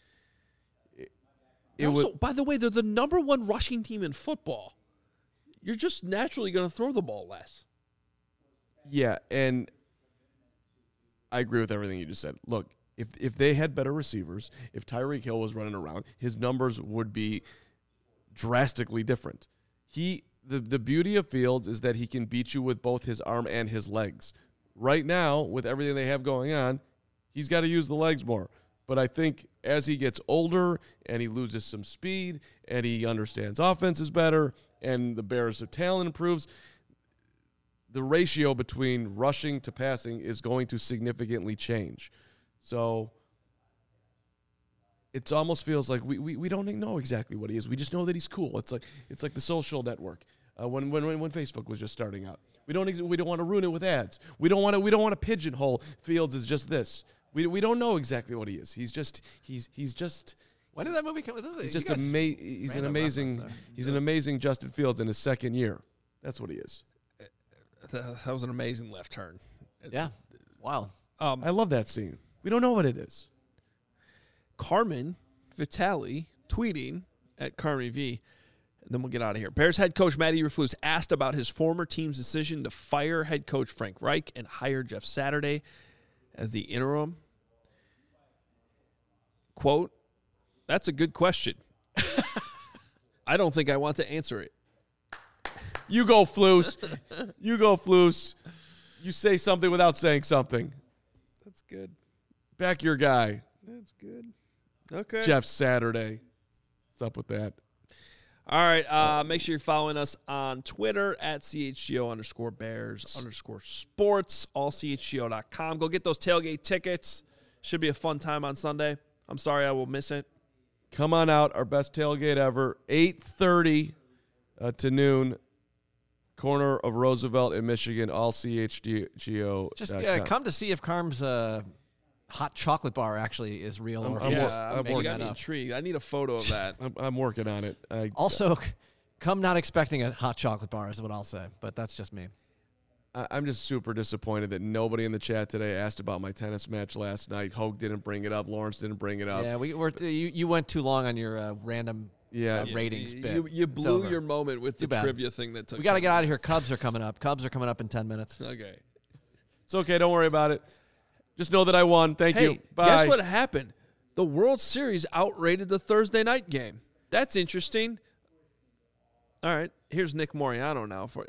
Speaker 1: By the way, they're the number 1 rushing team in football. You're just naturally going to throw the ball less.
Speaker 2: Yeah, and I agree with everything you just said. Look, if they had better receivers, if Tyreek Hill was running around, his numbers would be drastically different. The beauty of Fields is that he can beat you with both his arm and his legs. Right now, with everything they have going on, he's got to use the legs more. But I think as he gets older and he loses some speed and he understands offenses better and the Bears' talent improves, the ratio between rushing to passing is going to significantly change. So it almost feels like we don't know exactly what he is. We just know that he's cool. It's like the social network when Facebook was just starting out. We don't want to ruin it with ads. We don't want to pigeonhole Fields as just this. We don't know exactly what he is. He's just.
Speaker 3: When did that movie come?
Speaker 2: He's just he's an amazing Justin Fields in his second year. That's what he is.
Speaker 1: That was an amazing left turn.
Speaker 3: Yeah, wow.
Speaker 2: I love that scene. We don't know what it is.
Speaker 1: Carmen Vitale tweeting at Carmi V, and then we'll get out of here. Bears head coach Matty Eberflus asked about his former team's decision to fire head coach Frank Reich and hire Jeff Saturday as the interim. Quote, "That's a good question. I don't think I want to answer it."
Speaker 2: You go, Flus. You go, Flus. You say something without saying something.
Speaker 1: That's good.
Speaker 2: Back your guy.
Speaker 1: That's good. Okay.
Speaker 2: Jeff Saturday. What's up with that?
Speaker 1: All right. Make sure you're following us on Twitter at CHGO_Bears_sports, allchgo.com. Go get those tailgate tickets. Should be a fun time on Sunday. I'm sorry I will miss it.
Speaker 2: Come on out. Our best tailgate ever. 8:30 to noon. Corner of Roosevelt in Michigan. All CHGO.
Speaker 3: Just come to see if Carm's hot chocolate bar actually is real.
Speaker 1: I'm intrigued. I need a photo of that.
Speaker 2: I'm working on it.
Speaker 3: Also, come not expecting a hot chocolate bar is what I'll say, but that's just me.
Speaker 2: I'm just super disappointed that nobody in the chat today asked about my tennis match last night. Hogue didn't bring it up. Lawrence didn't bring it up.
Speaker 3: Yeah, you went too long on your random ratings bit.
Speaker 1: You blew your moment with the trivia thing that took.
Speaker 3: We got to get out of here. Cubs are coming up. Cubs are coming up in 10 minutes.
Speaker 1: Okay.
Speaker 2: It's okay. Don't worry about it. Just know that I won. Thank you. Bye.
Speaker 1: Guess what happened? The World Series outrated the Thursday night game. That's interesting. All right. Here's Nick Moriano now for.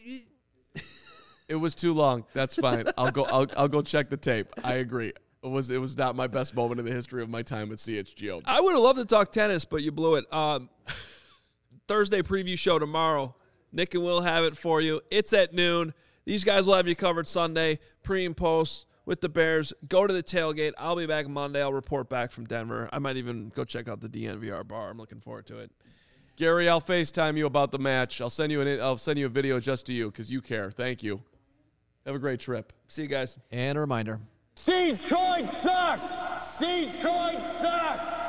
Speaker 2: It was too long. That's fine. I'll go check the tape. I agree. It was not my best moment in the history of my time at CHGO.
Speaker 1: I would have loved to talk tennis, but you blew it. Thursday preview show tomorrow. Nick and Will have it for you. It's at noon. These guys will have you covered Sunday, pre and post with the Bears. Go to the tailgate. I'll be back Monday. I'll report back from Denver. I might even go check out the DNVR bar. I'm looking forward to it.
Speaker 2: Gary, I'll FaceTime you about the match. I'll send you a video just to you because you care. Thank you. Have a great trip.
Speaker 1: See you guys.
Speaker 3: And a reminder.
Speaker 4: Detroit sucks! Detroit sucks!